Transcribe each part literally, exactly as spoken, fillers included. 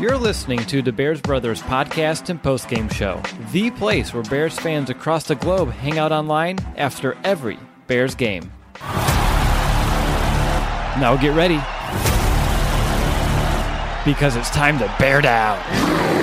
You're listening to the Bears Brothers podcast and postgame show, the place where Bears fans across the globe hang out online after every Bears game. Now get ready, because it's time to bear down.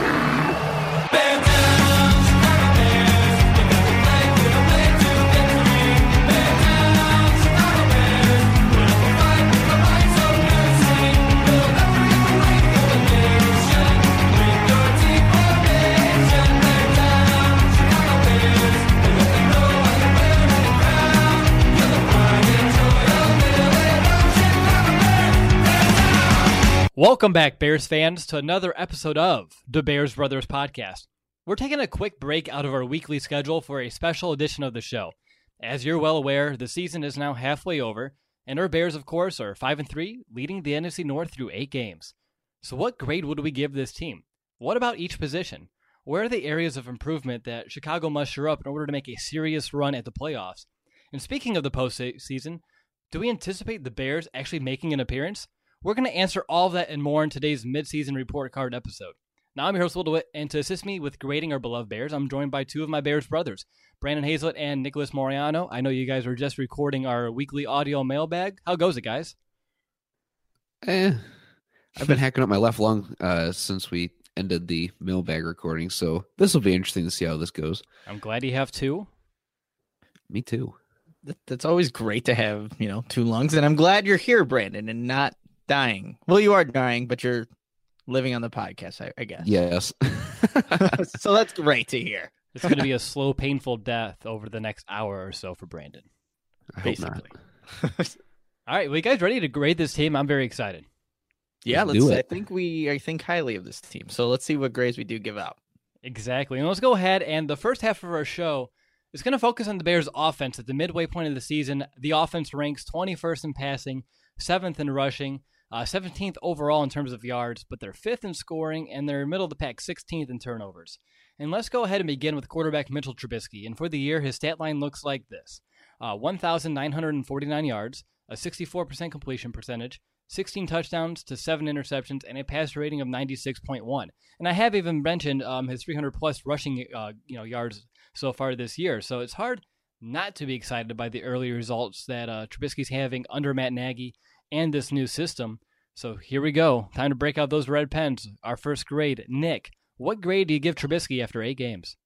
Welcome back, Bears fans, to another episode of the Bears Brothers podcast. We're taking a quick break out of our weekly schedule for a special edition of the show. As you're well aware, the season is now halfway over, and our Bears, of course, are five and three, leading the N F C North through eight games. So what grade would we give this team? What about each position? Where are the areas of improvement that Chicago must shore up in order to make a serious run at the playoffs? And speaking of the postseason, do we anticipate the Bears actually making an appearance? We're going to answer all of that and more in today's midseason report card episode. Now, I'm your host, Will DeWitt, and to assist me with grading our beloved Bears, I'm joined by two of my Bears brothers, Brandon Hazlett and Nicholas Moriano. I know you guys were just recording our weekly audio mailbag. How goes it, guys? Eh, I've been hacking up my left lung uh, since we ended the mailbag recording, so this will be interesting to see how this goes. I'm glad you have two. Me too. That's always great to have, you know, two lungs, and I'm glad you're here, Brandon, and not dying. Well, you are dying, but you're living on the podcast, I, I guess. Yes. So that's great to hear. It's going to be a slow, painful death over the next hour or so for Brandon. I hope Basically. not. All right, well, you guys ready to grade this team? I'm very excited. Yeah, Let's let's. do I it. think we. I think highly of this team. So let's see what grades we do give out. Exactly. And let's go ahead, and the first half of our show is going to focus on the Bears' offense. At the midway point of the season, the offense ranks twenty-first in passing, seventh in rushing, Uh, seventeenth overall in terms of yards, but they're fifth in scoring, and they're middle of the pack, sixteenth in turnovers. And let's go ahead and begin with quarterback Mitchell Trubisky. And for the year, his stat line looks like this. Uh, one thousand nine hundred forty-nine yards, a sixty-four percent completion percentage, sixteen touchdowns to seven interceptions, and a passer rating of ninety-six point one. And I have even mentioned um, his three hundred plus rushing uh, you know, yards so far this year. So it's hard not to be excited by the early results that uh, Trubisky's having under Matt Nagy and this new system. So here we go. Time to break out those red pens. Our first grade. Nick, what grade do you give Trubisky after eight games?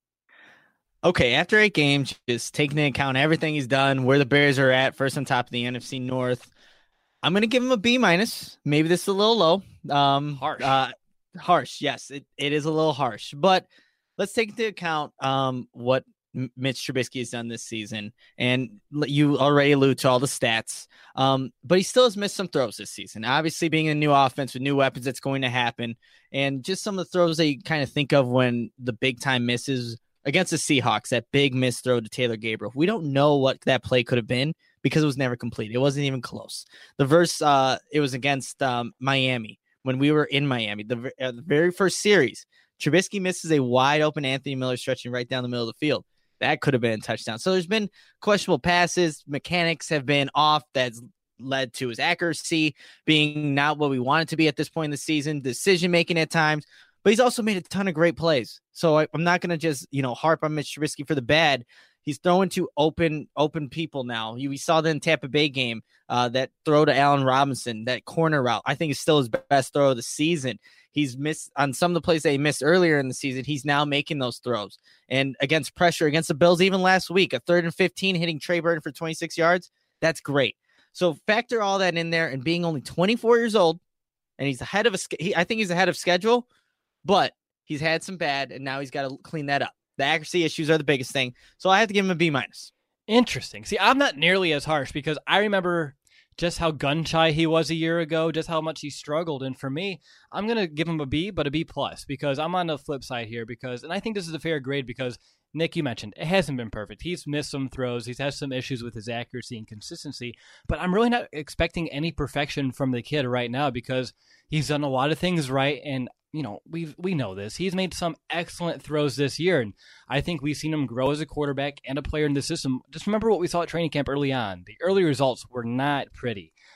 Okay, after eight games, just taking into account everything he's done, where the Bears are at, first on top of the N F C North, I'm going to give him a B minus. Maybe this is a little low. Um, Harsh. Uh, harsh, yes, it, it is a little harsh. But let's take into account um, what Mitch Trubisky has done this season, and you already allude to all the stats, um, but he still has missed some throws this season. Obviously, being a new offense with new weapons, that's going to happen, and just some of the throws that you kind of think of when the big time misses against the Seahawks, that big miss throw to Taylor Gabriel. We don't know what that play could have been because it was never complete. It wasn't even close. The verse, uh, it was against um, Miami when we were in Miami, the, uh, the very first series. Trubisky misses a wide open Anthony Miller stretching right down the middle of the field. That could have been a touchdown. So there's been questionable passes. Mechanics have been off. That's led to his accuracy being not what we want it to be at this point in the season. Decision-making at times. But he's also made a ton of great plays. So I, I'm not going to just, you know, harp on Mitch Trubisky for the bad. He's throwing to open open people now. You, we saw that in Tampa Bay game, uh, that throw to Allen Robinson, that corner route, I think is still his best throw of the season. He's missed on some of the plays that he missed earlier in the season. He's now making those throws. And against pressure, against the Bills, even last week, a third and fifteen hitting Trey Burton for twenty-six yards. That's great. So factor all that in there, and being only twenty-four years old, and he's ahead of a, he, I think he's ahead of schedule, but he's had some bad, and now he's got to clean that up. The accuracy issues are the biggest thing. So I have to give him a B minus. Interesting. See, I'm not nearly as harsh because I remember just how gun shy he was a year ago, just how much he struggled. And for me, I'm going to give him a B, but a B plus, because I'm on the flip side here because, and I think this is a fair grade because Nick, you mentioned it hasn't been perfect. He's missed some throws. He's had some issues with his accuracy and consistency, but I'm really not expecting any perfection from the kid right now because he's done a lot of things right. And you know, we we know this. He's made some excellent throws this year, and I think we've seen him grow as a quarterback and a player in the system. Just remember what we saw at training camp early on. The early results were not pretty.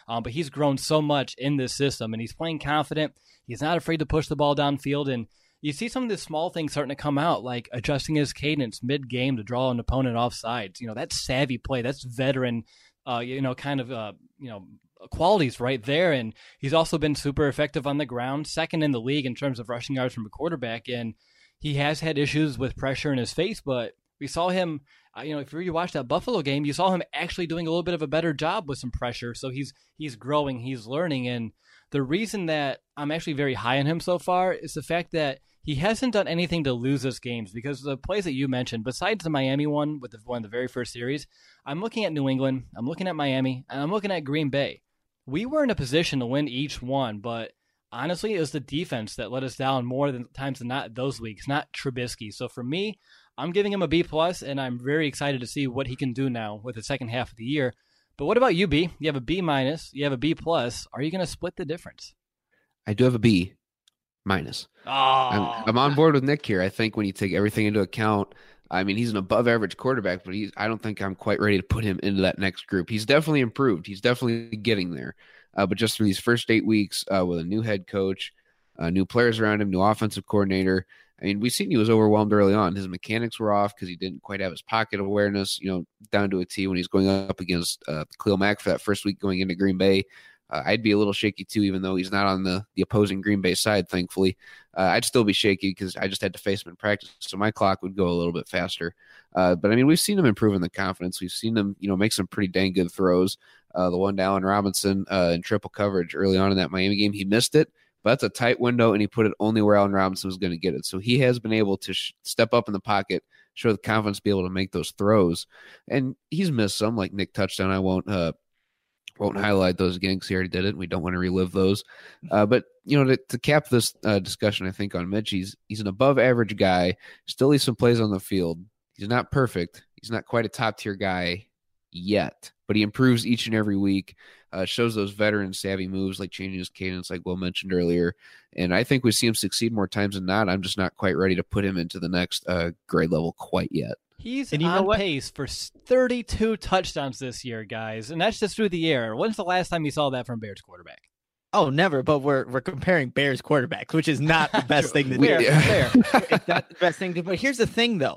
Um, but he's grown so much in this system, and he's playing confident. He's not afraid to push the ball downfield, and you see some of the small things starting to come out, like adjusting his cadence mid-game to draw an opponent off sides. You know, that's savvy play. That's veteran, uh, you know, kind of, uh, you know, qualities right there. And he's also been super effective on the ground, second in the league in terms of rushing yards from a quarterback. And he has had issues with pressure in his face, but we saw him, uh, you know, if you really watched that Buffalo game, you saw him actually doing a little bit of a better job with some pressure. So he's he's growing, he's learning. And the reason that I'm actually very high on him so far is the fact that he hasn't done anything to lose us games, because the plays that you mentioned, besides the Miami one with the one of the very first series, I'm looking at New England, I'm looking at Miami, and I'm looking at Green Bay. We were in a position to win each one, but honestly, it was the defense that let us down more than times than not those weeks, not Trubisky. So for me, I'm giving him a B plus, and I'm very excited to see what he can do now with the second half of the year. But what about you, B? You have a B minus, you have a B plus. Are you going to split the difference? I do have a B minus. Oh. I'm, I'm on board with Nick here. I think when you take everything into account, I mean, he's an above average quarterback, but he's, I don't think I'm quite ready to put him into that next group. He's definitely improved. He's definitely getting there. Uh, but just through these first eight weeks uh, with a new head coach, uh, new players around him, new offensive coordinator, I mean, we've seen he was overwhelmed early on. His mechanics were off because he didn't quite have his pocket awareness, you know, down to a T when he's going up against uh, Khalil Mack for that first week going into Green Bay. Uh, I'd be a little shaky too, even though he's not on the, the opposing Green Bay side, thankfully. Uh, I'd still be shaky because I just had to face him in practice, so my clock would go a little bit faster. Uh, but, I mean, we've seen him improve in the confidence. We've seen him, you know, make some pretty dang good throws. Uh, the one to Allen Robinson uh, in triple coverage early on in that Miami game, he missed it, but that's a tight window, and he put it only where Allen Robinson was going to get it. So he has been able to sh- step up in the pocket, show the confidence to be able to make those throws. And he's missed some, like Nick touched on. I won't uh, won't highlight those again because he already did it, and we don't want to relive those. Uh, but, you know, to, to cap this uh, discussion, I think, on Mitch, he's, he's an above-average guy, still leaves some plays on the field. He's not perfect. He's not quite a top-tier guy yet, but he improves each and every week, uh, shows those veteran savvy moves like changing his cadence, like Will mentioned earlier. And I think we see him succeed more times than not. I'm just not quite ready to put him into the next uh, grade level quite yet. He's and you on know what? pace for thirty-two touchdowns this year, guys, and that's just through the air. When's the last time you saw that from Bears quarterback? Oh, never. But we're we're comparing Bears quarterbacks, which is not the best thing to do. Fair, fair. It's not the best thing to do. But here's the thing, though.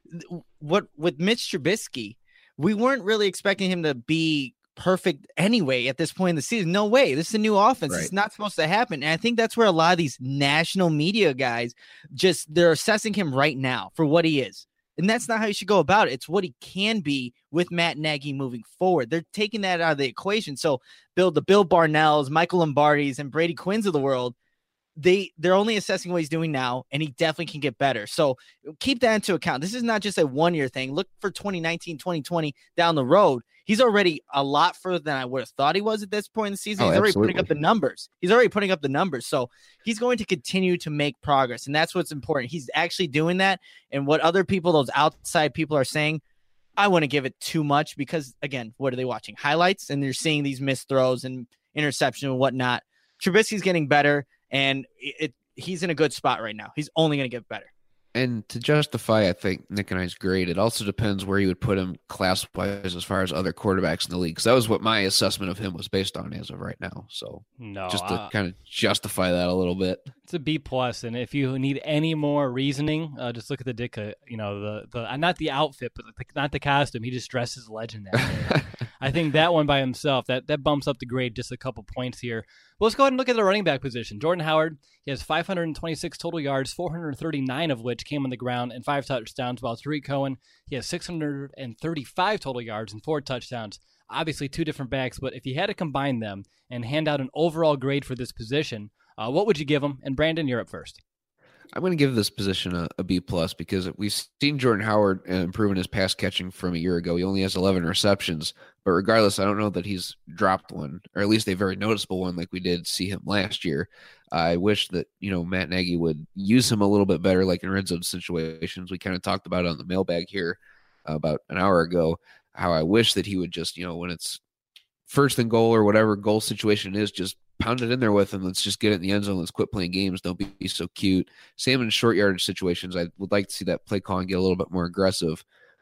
What with Mitch Trubisky, we weren't really expecting him to be perfect anyway at this point in the season. No way. This is a new offense. Right. It's not supposed to happen. And I think that's where a lot of these national media guys just they're assessing him right now for what he is. And that's not how you should go about it. It's what he can be with Matt Nagy moving forward. They're taking that out of the equation. So Bill, the Bill Barnells, Michael Lombardis, and Brady Quinns of the world, they they're only assessing what he's doing now, and he definitely can get better. So keep that into account. This is not just a one-year thing. Look for twenty nineteen, twenty twenty down the road. He's already a lot further than I would have thought he was at this point in the season. Oh, he's already absolutely. putting up the numbers. He's already putting up the numbers. So he's going to continue to make progress, and that's what's important. He's actually doing that, and what other people, those outside people are saying, I wouldn't give it too much because, again, what are they watching? Highlights, and they're seeing these missed throws and interception and whatnot. Trubisky's getting better, and it, it he's in a good spot right now. He's only going to get better. And to justify, I think, Nick and I's grade, it also depends where you would put him class-wise as far as other quarterbacks in the league. Because that was what my assessment of him was based on as of right now. So No, just to uh, kind of justify that a little bit. it's a B plus, and if you need any more reasoning, uh, just look at the Ditka. You know, the the uh, not the outfit, but the, not the costume. He just dresses legend that day. I think that one by himself that that bumps up the grade just a couple points here. Well, let's go ahead and look at the running back position. Jordan Howard, he has five hundred twenty-six total yards, four hundred thirty-nine of which came on the ground, and five touchdowns. While Tariq Cohen, he has six hundred thirty-five total yards and four touchdowns. Obviously, two different backs, but if you had to combine them and hand out an overall grade for this position, uh, what would you give them? And Brandon, you're up first. I'm going to give this position a, a B plus because we've seen Jordan Howard uh, improving his pass catching from a year ago. He only has eleven receptions, but regardless, I don't know that he's dropped one, or at least a very noticeable one like we did see him last year. I wish that, you know, Matt Nagy would use him a little bit better, like in red zone situations. We kind of talked about it on the mailbag here uh, about an hour ago, how I wish that he would just, you know, when it's first and goal or whatever goal situation is, just pound it in there with him. Let's just get it in the end zone. Let's quit playing games. Don't be so cute. Same in short yardage situations. I would like to see that play call and get a little bit more aggressive.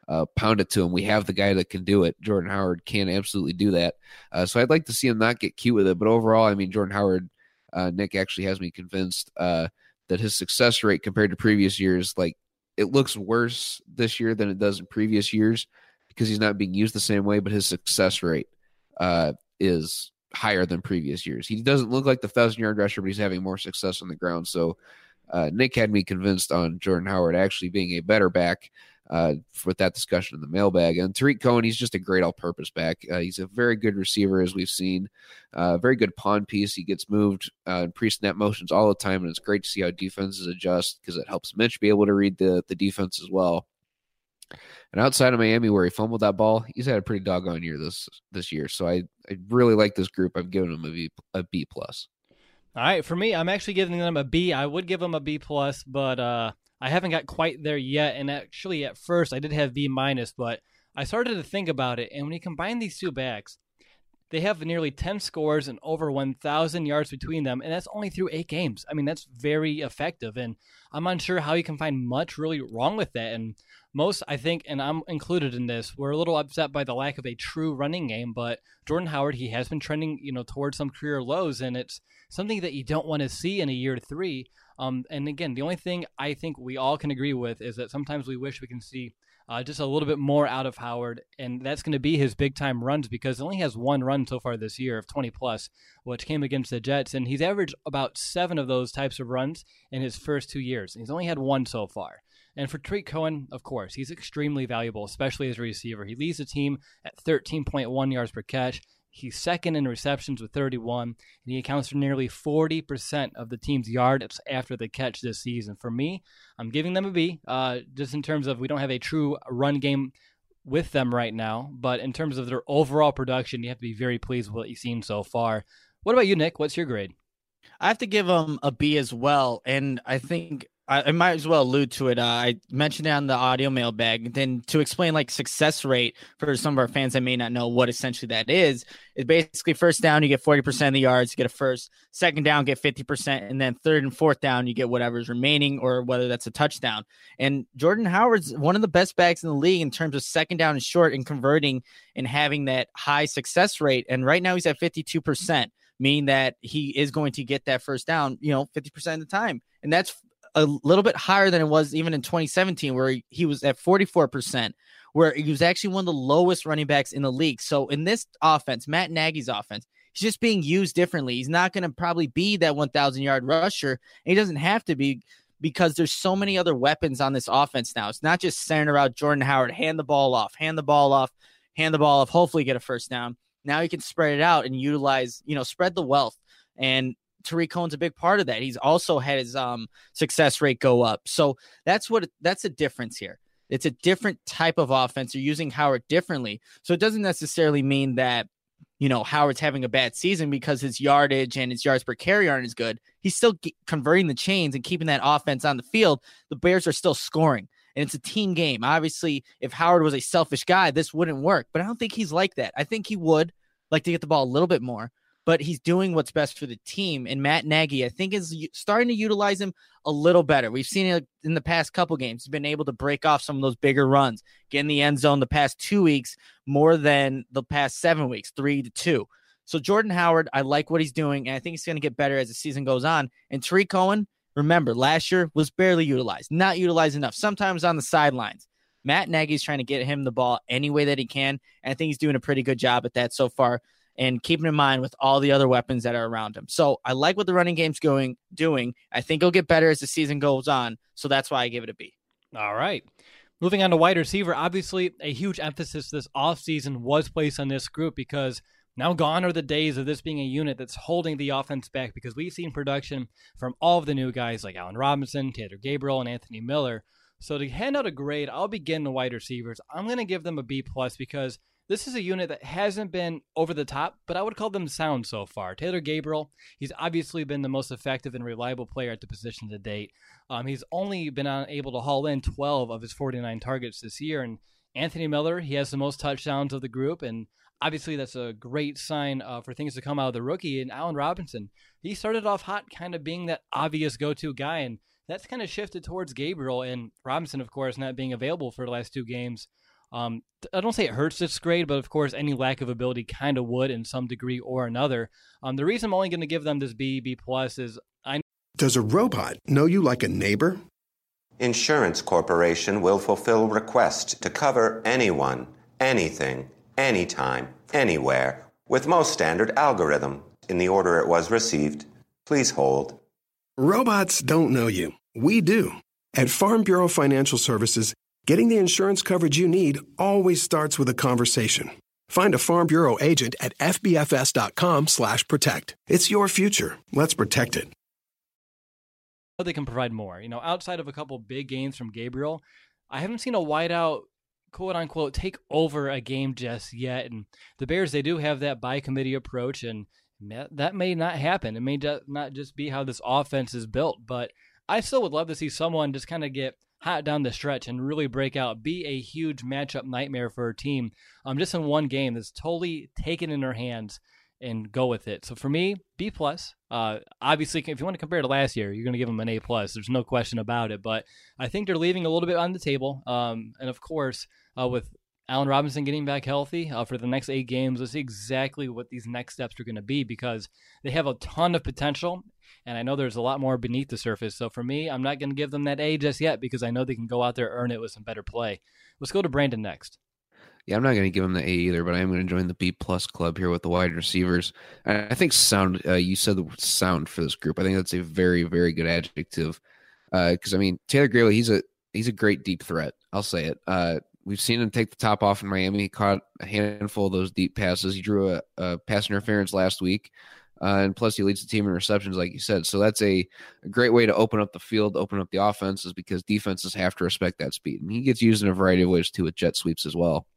uh, pound it to him. We have the guy that can do it. Jordan Howard can absolutely do that. Uh, so I'd like to see him not get cute with it. But overall, I mean, Jordan Howard, uh, Nick actually has me convinced uh, that his success rate compared to previous years, like it looks worse this year than it does in previous years because he's not being used the same way, but his success rate uh, is higher than previous years. He doesn't look like the thousand-yard rusher, but he's having more success on the ground. So uh, Nick had me convinced on Jordan Howard actually being a better back uh, with that discussion in the mailbag. And Tariq Cohen, he's just a great all-purpose back. Uh, he's a very good receiver, as we've seen. Uh, very good pawn piece. He gets moved uh, in pre-snap motions all the time, and it's great to see how defenses adjust because it helps Mitch be able to read the, the defense as well. And outside of Miami, where he fumbled that ball, he's had a pretty doggone year this this year. So I, I really like this group. I've given him a B a B plus. All right, for me, I'm actually giving them a B. I would give them a B plus, but uh, I haven't got quite there yet. And actually, at first, I did have B minus, but I started to think about it. And when you combine these two backs, they have nearly ten scores and over one thousand yards between them, and that's only through eight games. I mean, that's very effective, and I'm unsure how you can find much really wrong with that. And most, I think, and I'm included in this, we're a little upset by the lack of a true running game, but Jordan Howard, he has been trending, you know, towards some career lows, and it's something that you don't want to see in a year three. Um, and again, the only thing I think we all can agree with is that sometimes we wish we can see Uh, just a little bit more out of Howard, and that's going to be his big-time runs because he only has one run so far this year of twenty-plus, which came against the Jets, and he's averaged about seven of those types of runs in his first two years. He's only had one so far. And for Tariq Cohen, of course, he's extremely valuable, especially as a receiver. He leads the team at thirteen point one yards per catch. He's second in receptions with thirty-one, and he accounts for nearly forty percent of the team's yards after the catch this season. For me, I'm giving them a B, uh, just in terms of we don't have a true run game with them right now, but in terms of their overall production, you have to be very pleased with what you've seen so far. What about you, Nick? What's your grade? I have to give them a B as well, and I think I, I might as well allude to it. Uh, I mentioned it on the audio mailbag. Then to explain like success rate for some of our fans that may not know what essentially that is, is basically first down, you get forty percent of the yards, you get a first, second down, get fifty percent, and then third and fourth down, you get whatever's remaining or whether that's a touchdown. And Jordan Howard's one of the best backs in the league in terms of second down and short and converting and having that high success rate. And right now he's at fifty-two percent, meaning that he is going to get that first down, you know, fifty percent of the time. And that's a little bit higher than it was even in twenty seventeen, where he, he was at forty-four percent, where he was actually one of the lowest running backs in the league. So in this offense, Matt Nagy's offense, he's just being used differently. He's not going to probably be that one thousand yard rusher. And he doesn't have to be because there's so many other weapons on this offense now. It's not just centered around Jordan Howard, hand the ball off, hand the ball off, hand the ball off, hopefully get a first down. Now you can spread it out and utilize, you know, spread the wealth. And Tariq Cohen's a big part of that. He's also had his um, success rate go up. So that's what that's a difference here. It's a different type of offense. You're using Howard differently. So it doesn't necessarily mean that, you know, Howard's having a bad season because his yardage and his yards per carry aren't as good. He's still g- converting the chains and keeping that offense on the field. The Bears are still scoring, and it's a team game. Obviously, if Howard was a selfish guy, this wouldn't work. But I don't think he's like that. I think he would like to get the ball a little bit more. But he's doing what's best for the team. And Matt Nagy, I think, is starting to utilize him a little better. We've seen it in the past couple games. He's been able to break off some of those bigger runs, get in the end zone the past two weeks more than the past seven weeks, three to two. So Jordan Howard, I like what he's doing, and I think he's going to get better as the season goes on. And Tariq Cohen, remember, last year was barely utilized, not utilized enough, sometimes on the sidelines. Matt Nagy's trying to get him the ball any way that he can, and I think he's doing a pretty good job at that so far. And keeping in mind with all the other weapons that are around him. So I like what the running game's going doing. I think it'll get better as the season goes on. So that's why I give it a B. All right. Moving on to wide receiver, obviously a huge emphasis this offseason was placed on this group because now gone are the days of this being a unit that's holding the offense back because we've seen production from all of the new guys like Allen Robinson, Taylor Gabriel, and Anthony Miller. So to hand out a grade, I'll begin the wide receivers. I'm going to give them a B plus because this is a unit that hasn't been over the top, but I would call them sound so far. Taylor Gabriel, he's obviously been the most effective and reliable player at the position to date. Um, he's only been able to haul in twelve of his forty-nine targets this year. And Anthony Miller, he has the most touchdowns of the group, and obviously that's a great sign uh, for things to come out of the rookie. And Allen Robinson, he started off hot kind of being that obvious go-to guy, and that's kind of shifted towards Gabriel, and Robinson, of course, not being available for the last two games. Um, I don't say it hurts this grade, but of course, any lack of ability kind of would in some degree or another. Um, the reason I'm only going to give them this B, B plus is I. Does a robot know you like a neighbor? Insurance Corporation will fulfill requests to cover anyone, anything, anytime, anywhere, with most standard algorithm in the order it was received. Please hold. Robots don't know you. We do. At Farm Bureau Financial Services, getting the insurance coverage you need always starts with a conversation. Find a Farm Bureau agent at F B F S dot com slash protect. It's your future. Let's protect it. They can provide more. You know, outside of a couple big games from Gabriel, I haven't seen a wideout, quote unquote, take over a game just yet. And the Bears, they do have that by committee approach, and that may not happen. It may not just be how this offense is built, but I still would love to see someone just kind of get hot down the stretch and really break out, be a huge matchup nightmare for a team. Um, just in one game that's totally taken in their hands and go with it. So for me, B plus. Uh, obviously, if you want to compare to last year, you're going to give them an A plus. There's no question about it. But I think they're leaving a little bit on the table. Um, and of course, uh, with Allen Robinson getting back healthy uh, for the next eight games, let's see exactly what these next steps are going to be, because they have a ton of potential. And I know there's a lot more beneath the surface. So for me, I'm not going to give them that A just yet, because I know they can go out there, earn it with some better play. Let's go to Brandon next. Yeah, I'm not going to give him the A either, but I am going to join the B plus club here with the wide receivers. And I think sound, uh, you said the word sound for this group. I think that's a very, very good adjective. Because, uh, I mean, Taylor Gabriel, he's a he's a great deep threat. I'll say it. Uh, we've seen him take the top off in Miami. He caught a handful of those deep passes. He drew a, a pass interference last week. Uh, and plus, he leads the team in receptions, like you said. So that's a, a great way to open up the field, open up the offenses, because defenses have to respect that speed. And he gets used in a variety of ways, too, with jet sweeps as well.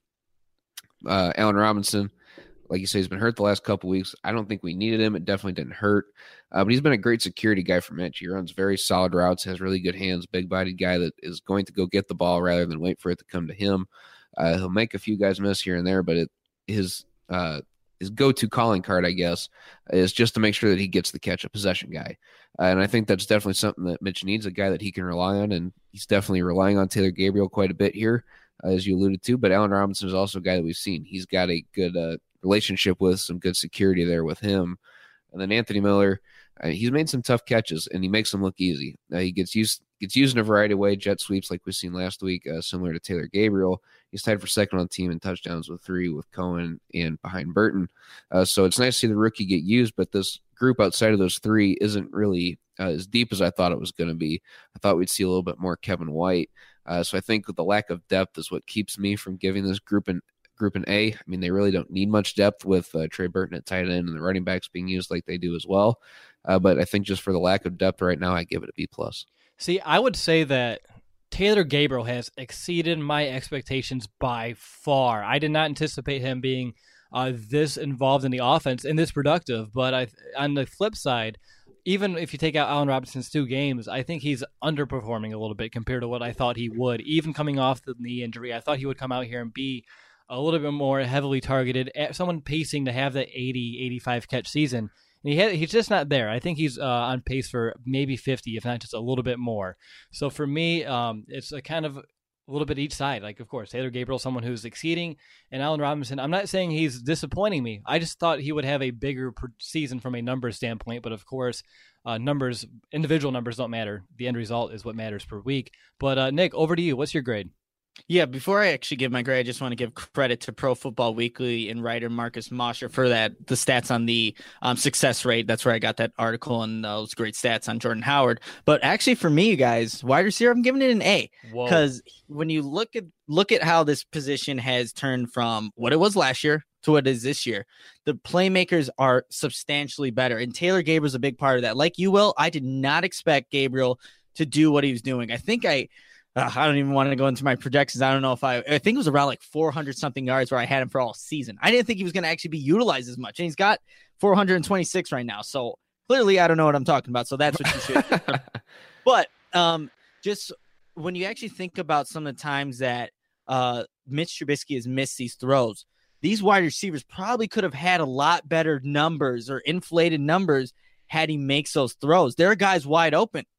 Uh, Allen Robinson, like you say, he's been hurt the last couple weeks. I don't think we needed him. It definitely didn't hurt. Uh, but he's been a great security guy for Mitch. He runs very solid routes, has really good hands, big-bodied guy that is going to go get the ball rather than wait for it to come to him. Uh, he'll make a few guys miss here and there, but it, his uh, his go-to calling card, I guess, is just to make sure that he gets the catch, a possession guy. Uh, and I think that's definitely something that Mitch needs, a guy that he can rely on, and he's definitely relying on Taylor Gabriel quite a bit here, as you alluded to, but Allen Robinson is also a guy that we've seen. He's got a good uh, relationship with, some good security there with him. And then Anthony Miller, uh, he's made some tough catches, and he makes them look easy. Uh, he gets used gets used in a variety of ways, jet sweeps like we've seen last week, uh, similar to Taylor Gabriel. He's tied for second on the team in touchdowns with three with Cohen and behind Burton. Uh, so it's nice to see the rookie get used, but this group outside of those three isn't really uh, as deep as I thought it was going to be. I thought we'd see a little bit more Kevin White. Uh, so I think the lack of depth is what keeps me from giving this group an group an A. I mean, they really don't need much depth with uh, Trey Burton at tight end and the running backs being used like they do as well. Uh, but I think just for the lack of depth right now, I give it a B plus. See, I would say that Taylor Gabriel has exceeded my expectations by far. I did not anticipate him being uh, this involved in the offense and this productive. But I, on the flip side, even if you take out Allen Robinson's two games, I think he's underperforming a little bit compared to what I thought he would. Even coming off the knee injury, I thought he would come out here and be a little bit more heavily targeted, someone pacing to have that eighty, eighty-five catch season. And he had, he's just not there. I think he's uh, on pace for maybe fifty, if not just a little bit more. So for me, um, it's a kind of a little bit each side. Like, of course, Taylor Gabriel, someone who's exceeding, and Allen Robinson, I'm not saying he's disappointing me. I just thought he would have a bigger season from a numbers standpoint. But of course, uh, numbers, individual numbers don't matter. The end result is what matters per week. But uh, Nick, over to you. What's your grade? Yeah, before I actually give my grade, I just want to give credit to Pro Football Weekly and writer Marcus Mosher for that, the stats on the um, success rate. That's where I got that article and those great stats on Jordan Howard. But actually, for me, you guys, wide receiver, I'm giving it an A. Because when you look at look at how this position has turned from what it was last year to what it is this year, the playmakers are substantially better. And Taylor Gabriel's a big part of that. Like you, Will, I did not expect Gabriel to do what he was doing. I think I... Uh, I don't even want to go into my projections. I don't know if I, I think it was around like four hundred something yards where I had him for all season. I didn't think he was going to actually be utilized as much. And he's got four hundred twenty-six right now. So clearly I don't know what I'm talking about. So that's what you should. But um, just when you actually think about some of the times that uh, Mitch Trubisky has missed these throws, these wide receivers probably could have had a lot better numbers or inflated numbers had he makes those throws. There are guys wide open.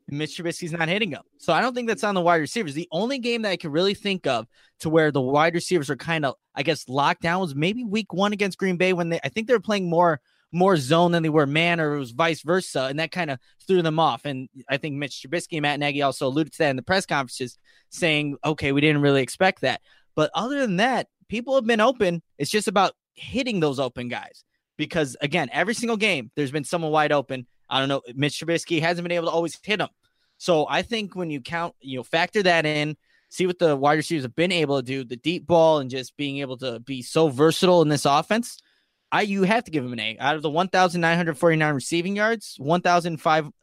Mitch Trubisky's not hitting them. So I don't think that's on the wide receivers. The only game that I can really think of to where the wide receivers are kind of, I guess, locked down was maybe week one against Green Bay when they, I think they were playing more more zone than they were man, or it was vice versa, and that kind of threw them off. And I think Mitch Trubisky and Matt Nagy also alluded to that in the press conferences, saying, okay, we didn't really expect that. But other than that, people have been open. It's just about hitting those open guys. Because, again, every single game, there's been someone wide open. I don't know. Mitch Trubisky hasn't been able to always hit them. So I think when you count, you know, factor that in, see what the wide receivers have been able to do, the deep ball and just being able to be so versatile in this offense, I you have to give him an A. Out of the one thousand nine hundred forty-nine receiving yards, one thousand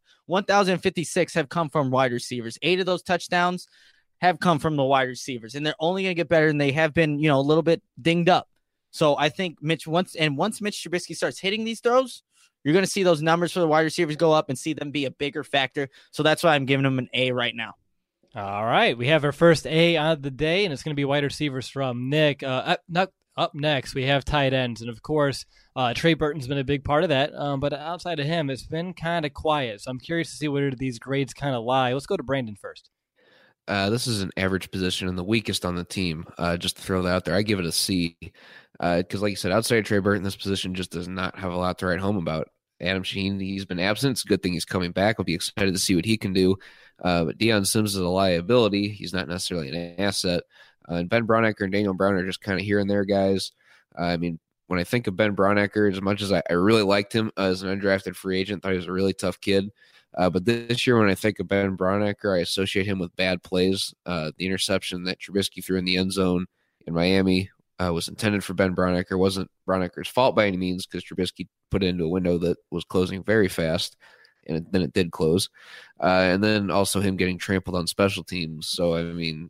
fifty-six have come from wide receivers. Eight of those touchdowns have come from the wide receivers, and they're only going to get better, and they have been, you know, a little bit dinged up. So I think Mitch once and once Mitch Trubisky starts hitting these throws, you're going to see those numbers for the wide receivers go up and see them be a bigger factor. So that's why I'm giving them an A right now. All right, we have our first A of the day, and it's going to be wide receivers from Nick. Uh, up, not, up next, we have tight ends, and of course, uh, Trey Burton's been a big part of that. Um, but outside of him, it's been kind of quiet. So I'm curious to see where these grades kind of lie. Let's go to Brandon first. Uh, this is an average position and the weakest on the team. Uh, just to throw that out there, I give it a C. Because, uh, like you said, outside of Trey Burton, this position just does not have a lot to write home about. Adam Shaheen, he's been absent. It's a good thing he's coming back. I'll be excited to see what he can do. Uh, but Deion Sims is a liability. He's not necessarily an asset. Uh, and Ben Braunecker and Daniel Brown are just kind of here and there guys. Uh, I mean, when I think of Ben Braunecker, as much as I, I really liked him as an undrafted free agent, thought he was a really tough kid. Uh, but this year, when I think of Ben Braunecker, I associate him with bad plays. Uh, the interception that Trubisky threw in the end zone in Miami uh, was intended for Ben Braunecker. Wasn't Braunecker's fault by any means, because Trubisky put it into a window that was closing very fast, and it, then it did close. Uh, and then also him getting trampled on special teams. So, I mean,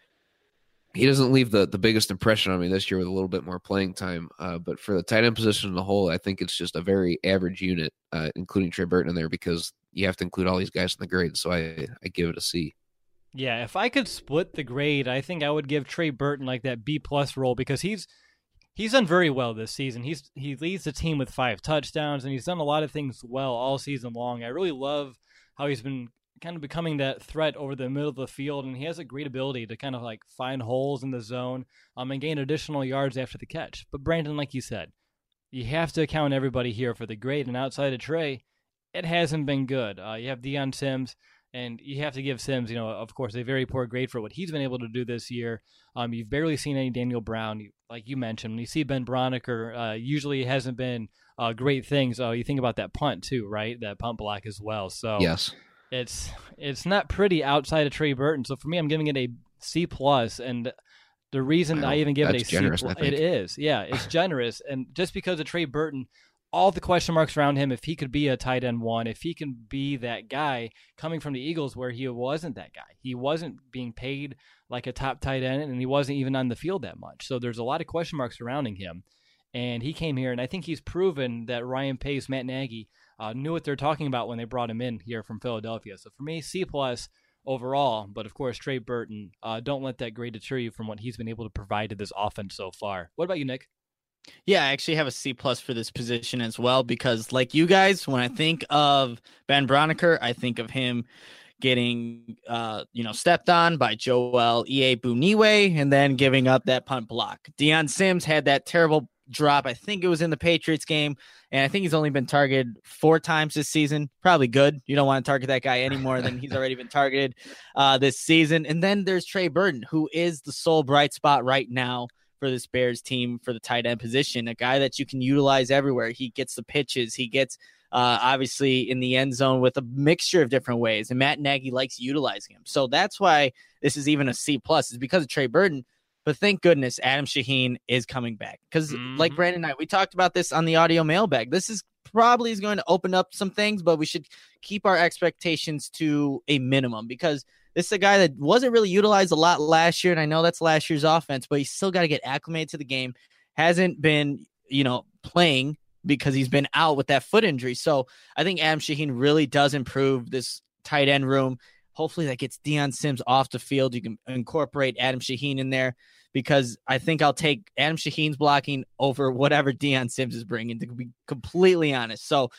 he doesn't leave the, the biggest impression on me this year with a little bit more playing time. Uh, but for the tight end position in the whole, I think it's just a very average unit, uh, including Trey Burton in there, because you have to include all these guys in the grade. So I, I give it a C. Yeah, if I could split the grade, I think I would give Trey Burton like that B plus role, because he's he's done very well this season. He's he leads the team with five touchdowns, and he's done a lot of things well all season long. I really love how he's been kind of becoming that threat over the middle of the field, and he has a great ability to kind of like find holes in the zone um, and gain additional yards after the catch. But Brandon, like you said, you have to account everybody here for the grade, and outside of Trey, it hasn't been good. Uh, you have Deion Sims, and you have to give Sims, you know, of course, a very poor grade for what he's been able to do this year. Um, you've barely seen any Daniel Brown, you, like you mentioned. When you see Ben Braunecker, uh, usually it hasn't been uh, great things. Uh, you think about that punt too, right? That punt block as well. So yes. It's it's not pretty outside of Trey Burton. So for me, I'm giving it a C plus, and the reason wow, I even give it a generous, C plus, it is, yeah, it's generous, and just because of Trey Burton, all the question marks around him, if he could be a tight end one, if he can be that guy coming from the Eagles where he wasn't that guy, he wasn't being paid like a top tight end, and he wasn't even on the field that much. So there's a lot of question marks surrounding him, and he came here, and I think he's proven that Ryan Pace, Matt Nagy, Uh, knew what they're talking about when they brought him in here from Philadelphia. So for me, C plus overall. But of course, Trey Burton, uh, don't let that grade deter you from what he's been able to provide to this offense so far. What about you, Nick? Yeah, I actually have a C plus for this position as well, because like you guys, when I think of Ben Braunecker, I think of him getting, uh, you know, stepped on by Joel Iyiegbuniwe and then giving up that punt block. Deion Sims had that terrible drop. I think it was in the Patriots game, and I think he's only been targeted four times this season. Probably good. You don't want to target that guy any more than he's already been targeted uh, this season. And then there's Trey Burton, who is the sole bright spot right now for this Bears team for the tight end position, a guy that you can utilize everywhere. He gets the pitches. He gets uh, obviously in the end zone with a mixture of different ways, and Matt Nagy likes utilizing him. So that's why this is even a C plus, is because of Trey Burton. But thank goodness Adam Shaheen is coming back, because mm-hmm. like Brandon and I, we talked about this on the audio mailbag. This is probably is going to open up some things, but we should keep our expectations to a minimum, because this is a guy that wasn't really utilized a lot last year. And I know that's last year's offense, but he's still got to get acclimated to the game. Hasn't been, you know, playing because he's been out with that foot injury. So I think Adam Shaheen really does improve this tight end room. Hopefully that gets Deion Sims off the field. You can incorporate Adam Shaheen in there, because I think I'll take Adam Shaheen's blocking over whatever Deion Sims is bringing, to be completely honest. So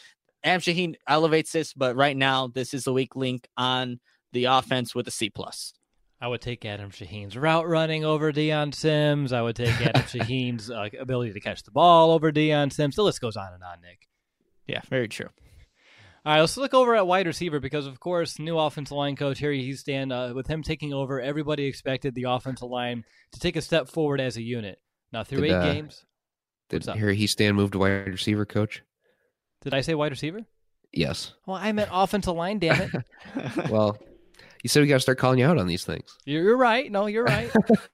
Adam Shaheen elevates this, but right now this is a weak link on the offense with a C plus. I would take Adam Shaheen's route running over Deion Sims. I would take Adam Shaheen's uh, ability to catch the ball over Deion Sims. The list goes on and on, Nick. Yeah, very true. All right, let's look over at wide receiver because, of course, new offensive line coach Harry Hiestand, uh, with him taking over, everybody expected the offensive line to take a step forward as a unit. Now, through Did, eight uh, games. Did Harry Hiestand move to wide receiver coach? Did I say wide receiver? Yes. Well, I meant offensive line, damn it. Well, you said we got to start calling you out on these things. You're right. No, you're right.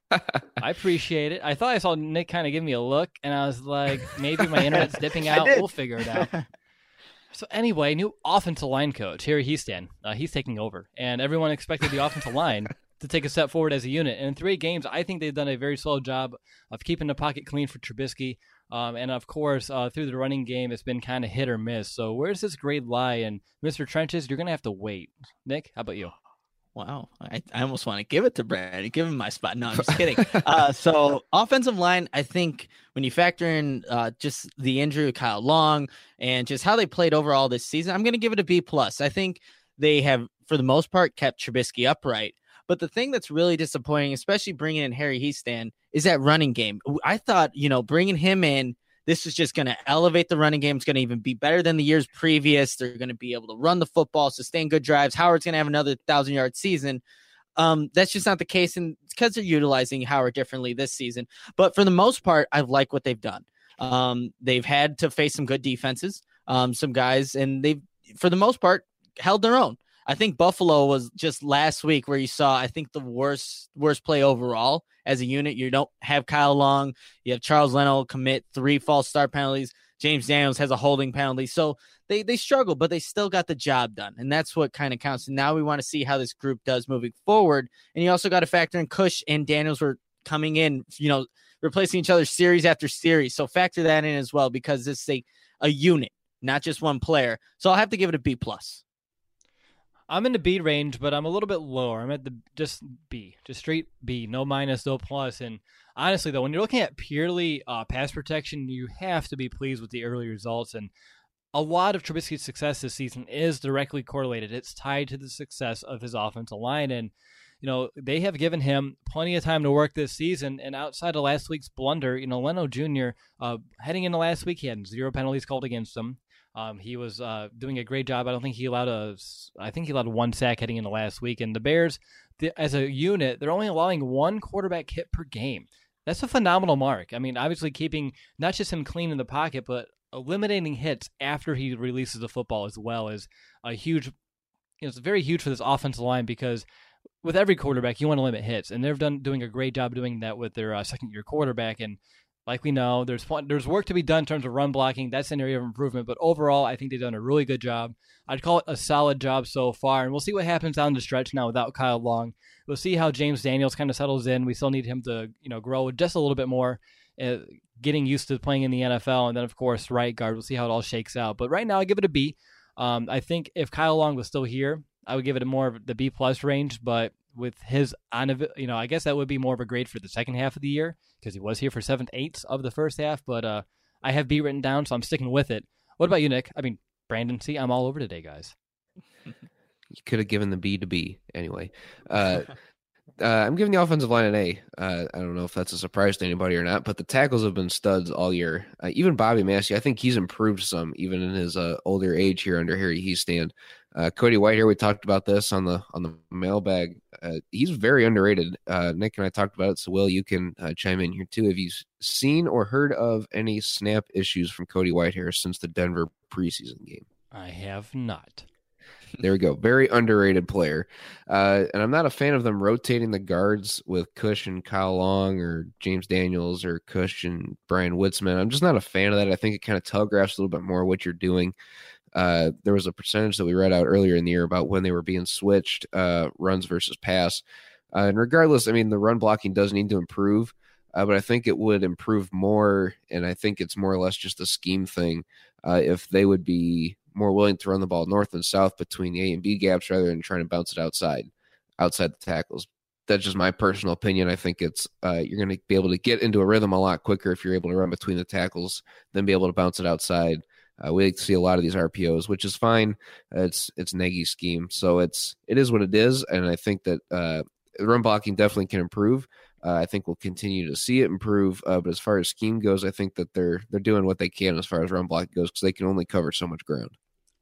I appreciate it. I thought I saw Nick kind of give me a look, and I was like, maybe my internet's dipping out. We'll figure it out. So anyway, new offensive line coach, Harry Hiestand. Uh, he's taking over, and everyone expected the offensive line to take a step forward as a unit. And in three games, I think they've done a very solid job of keeping the pocket clean for Trubisky. Um, and, of course, uh, through the running game, it's been kind of hit or miss. So where does this grade lie? And Mister Trenches, you're going to have to wait. Nick, how about you? Wow. I, I almost want to give it to Brad. Give him my spot. No, I'm just kidding. uh, so offensive line, I think when you factor in uh, just the injury of Kyle Long and just how they played overall this season, I'm going to give it a B plus. I think they have, for the most part, kept Trubisky upright. But the thing that's really disappointing, especially bringing in Harry Hiestand, is that running game. I thought, you know, bringing him in, this is just going to elevate the running game. It's going to even be better than the years previous. They're going to be able to run the football, sustain good drives. Howard's going to have another thousand-yard season. Um, that's just not the case, and it's because they're utilizing Howard differently this season. But for the most part, I like what they've done. Um, they've had to face some good defenses, um, some guys, and they've, for the most part, held their own. I think Buffalo was just last week where you saw, I think, the worst worst play overall as a unit. You don't have Kyle Long. You have Charles Leno commit three false start penalties. James Daniels has a holding penalty. So they, they struggle, but they still got the job done. And that's what kind of counts. And now we want to see how this group does moving forward. And you also got to factor in Cush and Daniels were coming in, you know, replacing each other series after series. So factor that in as well, because it's a, a unit, not just one player. So I'll have to give it a B plus. I'm in the B range, but I'm a little bit lower. I'm at the just B, just straight B, no minus, no plus. And honestly, though, when you're looking at purely uh, pass protection, you have to be pleased with the early results. And a lot of Trubisky's success this season is directly correlated. It's tied to the success of his offensive line. And, you know, they have given him plenty of time to work this season. And outside of last week's blunder, you know, Leno Junior, uh, heading into last week, he had zero penalties called against him. Um, he was uh, doing a great job. I don't think he allowed a, I think he allowed one sack heading into last week. And the Bears, the, as a unit, they're only allowing one quarterback hit per game. That's a phenomenal mark. I mean, obviously keeping not just him clean in the pocket, but eliminating hits after he releases the football as well is a huge, you know, it's very huge for this offensive line because with every quarterback, you want to limit hits. And they've done doing a great job doing that with their uh, second-year quarterback. And like we know, there's there's work to be done in terms of run blocking. That's an area of improvement. But overall, I think they've done a really good job. I'd call it a solid job so far. And we'll see what happens down the stretch now without Kyle Long. We'll see how James Daniels kind of settles in. We still need him to, you know, grow just a little bit more, uh, getting used to playing in the N F L. And then, of course, right guard. We'll see how it all shakes out. But right now, I give it a B. Um, I think if Kyle Long was still here, I would give it a more of the B plus range. But with his on, you know, I guess that would be more of a grade for the second half of the year because he was here for seventh eighths of the first half. But uh, I have B written down, so I'm sticking with it. What about you, Nick? I mean, Brandon, see, I'm all over today, guys. You could have given the B to B anyway. Uh, uh, I'm giving the offensive line an A. Uh, I don't know if that's a surprise to anybody or not, but the tackles have been studs all year. Uh, even Bobby Massey, I think he's improved some, even in his uh, older age here under Harry Hiestand. Uh, Cody Whitehair, we talked about this on the on the mailbag. Uh, he's very underrated. Uh, Nick and I talked about it, so Will, you can uh, chime in here too. Have you seen or heard of any snap issues from Cody Whitehair since the Denver preseason game? I have not. There we go. Very underrated player. Uh, and I'm not a fan of them rotating the guards with Cush and Kyle Long or James Daniels or Cush and Brian Witzman. I'm just not a fan of that. I think it kind of telegraphs a little bit more what you're doing. Uh, there was a percentage that we read out earlier in the year about when they were being switched, uh, runs versus pass. Uh, and regardless, I mean, the run blocking does need to improve, uh, but I think it would improve more, and I think it's more or less just a scheme thing, uh, if they would be more willing to run the ball north and south between the A and B gaps rather than trying to bounce it outside, outside the tackles. That's just my personal opinion. I think it's uh, you're going to be able to get into a rhythm a lot quicker if you're able to run between the tackles than be able to bounce it outside. Uh, we like to see a lot of these R P Os, which is fine. Uh, it's it's Nagy's scheme, so it's it is what it is, and I think that uh, run blocking definitely can improve. Uh, I think we'll continue to see it improve. Uh, but as far as scheme goes, I think that they're they're doing what they can as far as run blocking goes because they can only cover so much ground.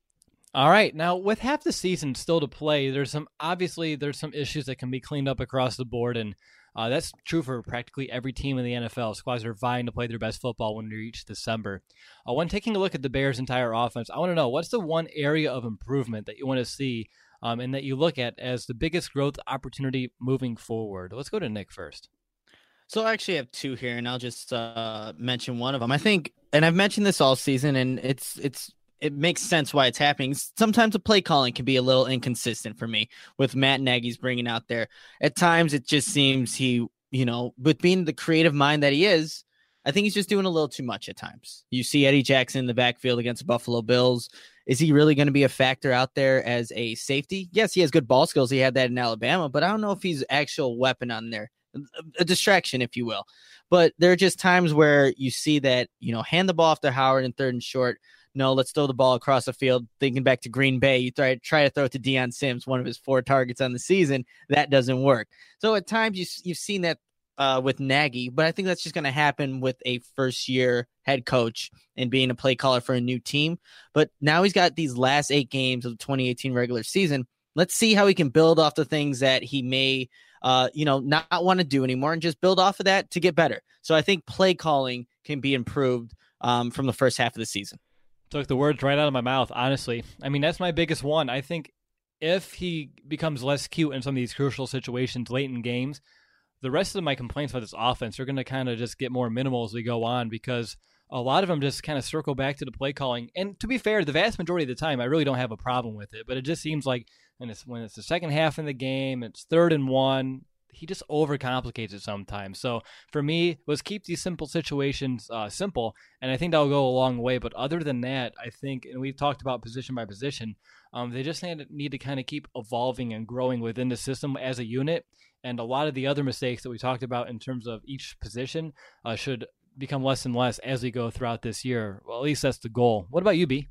All right, now with half the season still to play, there's some obviously there's some issues that can be cleaned up across the board, and uh, that's true for practically every team in the N F L. Squads are vying to play their best football when we reach December. Uh, when taking a look at the Bears' entire offense, I want to know what's the one area of improvement that you want to see, um, and that you look at as the biggest growth opportunity moving forward. Let's go to Nick first. So I actually have two here, and I'll just uh, mention one of them. I think, and I've mentioned this all season, and it's it's. It makes sense why it's happening. Sometimes the play calling can be a little inconsistent for me with Matt Nagy's bringing out there. At times, it just seems he, you know, with being the creative mind that he is, I think he's just doing a little too much at times. You see Eddie Jackson in the backfield against the Buffalo Bills. Is he really going to be a factor out there as a safety? Yes, he has good ball skills. He had that in Alabama, but I don't know if he's actual weapon on there. A distraction, if you will. But there are just times where you see that, you know, hand the ball off to Howard in third and short. No, let's throw the ball across the field. Thinking back to Green Bay, you try, try to throw it to Deion Sims, one of his four targets on the season. That doesn't work. So at times you, you've seen that uh, with Nagy, but I think that's just going to happen with a first-year head coach and being a play caller for a new team. But now he's got these last eight games of the twenty eighteen regular season. Let's see how he can build off the things that he may uh, you know, not want to do anymore and just build off of that to get better. So I think play calling can be improved um, from the first half of the season. Took the words right out of my mouth, honestly. I mean, that's my biggest one. I think if he becomes less cute in some of these crucial situations late in games, the rest of my complaints about this offense are going to kind of just get more minimal as we go on because a lot of them just kind of circle back to the play calling. And to be fair, the vast majority of the time, I really don't have a problem with it. But it just seems like when it's, when it's the second half in the game, it's third and one, he just overcomplicates it sometimes. So for me, was keep these simple situations uh, simple, and I think that'll go a long way. But other than that, I think, and we've talked about position by position, um, they just need, need to kind of keep evolving and growing within the system as a unit. And a lot of the other mistakes that we talked about in terms of each position uh, should become less and less as we go throughout this year. Well, at least that's the goal. What about you, B?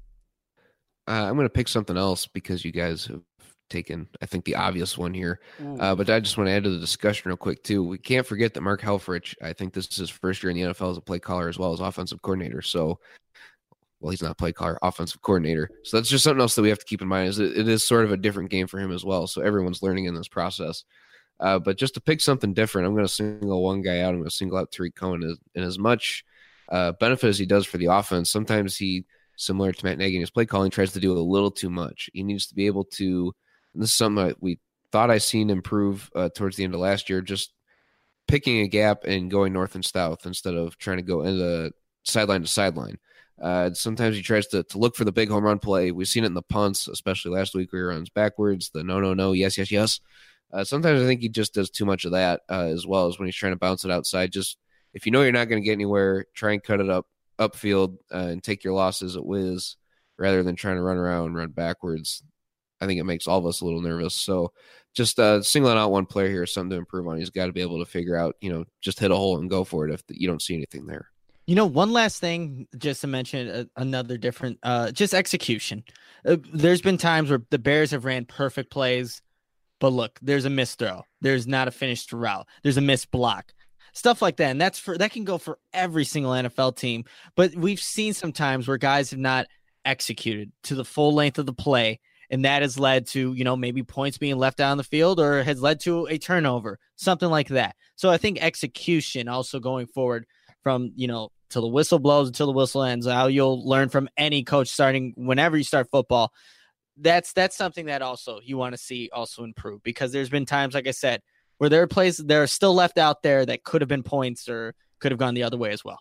Uh, I'm going to pick something else because you guys have taken, I think, the obvious one here. Uh, but I just want to add to the discussion real quick, too. We can't forget that Mark Helfrich, I think this is his first year in the N F L as a play caller as well as offensive coordinator. So, well, he's not a play caller, offensive coordinator. So that's just something else that we have to keep in mind is it, it is sort of a different game for him as well. So everyone's learning in this process. Uh, but just to pick something different, I'm going to single one guy out. I'm going to single out Tariq Cohen. And in as much uh, benefit as he does for the offense, sometimes he, similar to Matt Nagy in his play calling, tries to do a little too much. He needs to be able to, and this is something that we thought I seen improve uh, towards the end of last year, just picking a gap and going north and south instead of trying to go into sideline to sideline. Uh, sometimes he tries to, to look for the big home run play. We've seen it in the punts, especially last week where he runs backwards, the no, no, no, yes, yes, yes. Uh, sometimes I think he just does too much of that uh, as well as when he's trying to bounce it outside. Just if you know you're not going to get anywhere, try and cut it up upfield uh, and take your losses at whiz rather than trying to run around and run backwards. I think it makes all of us a little nervous. So just uh, singling out one player here is something to improve on. He's got to be able to figure out, you know, just hit a hole and go for it if you don't see anything there. You know, one last thing, just to mention uh, another different, uh, just execution. Uh, there's been times where the Bears have ran perfect plays, but look, there's a missed throw. There's not a finished route. There's a missed block. Stuff like that. And that's for, that can go for every single N F L team. But we've seen some times where guys have not executed to the full length of the play. And that has led to, you know, maybe points being left out on the field or has led to a turnover, something like that. So I think execution also going forward from, you know, till the whistle blows until the whistle ends, how you'll learn from any coach starting whenever you start football. That's that's something that also you want to see also improve, because there's been times, like I said, where there are plays that are still left out there that could have been points or could have gone the other way as well.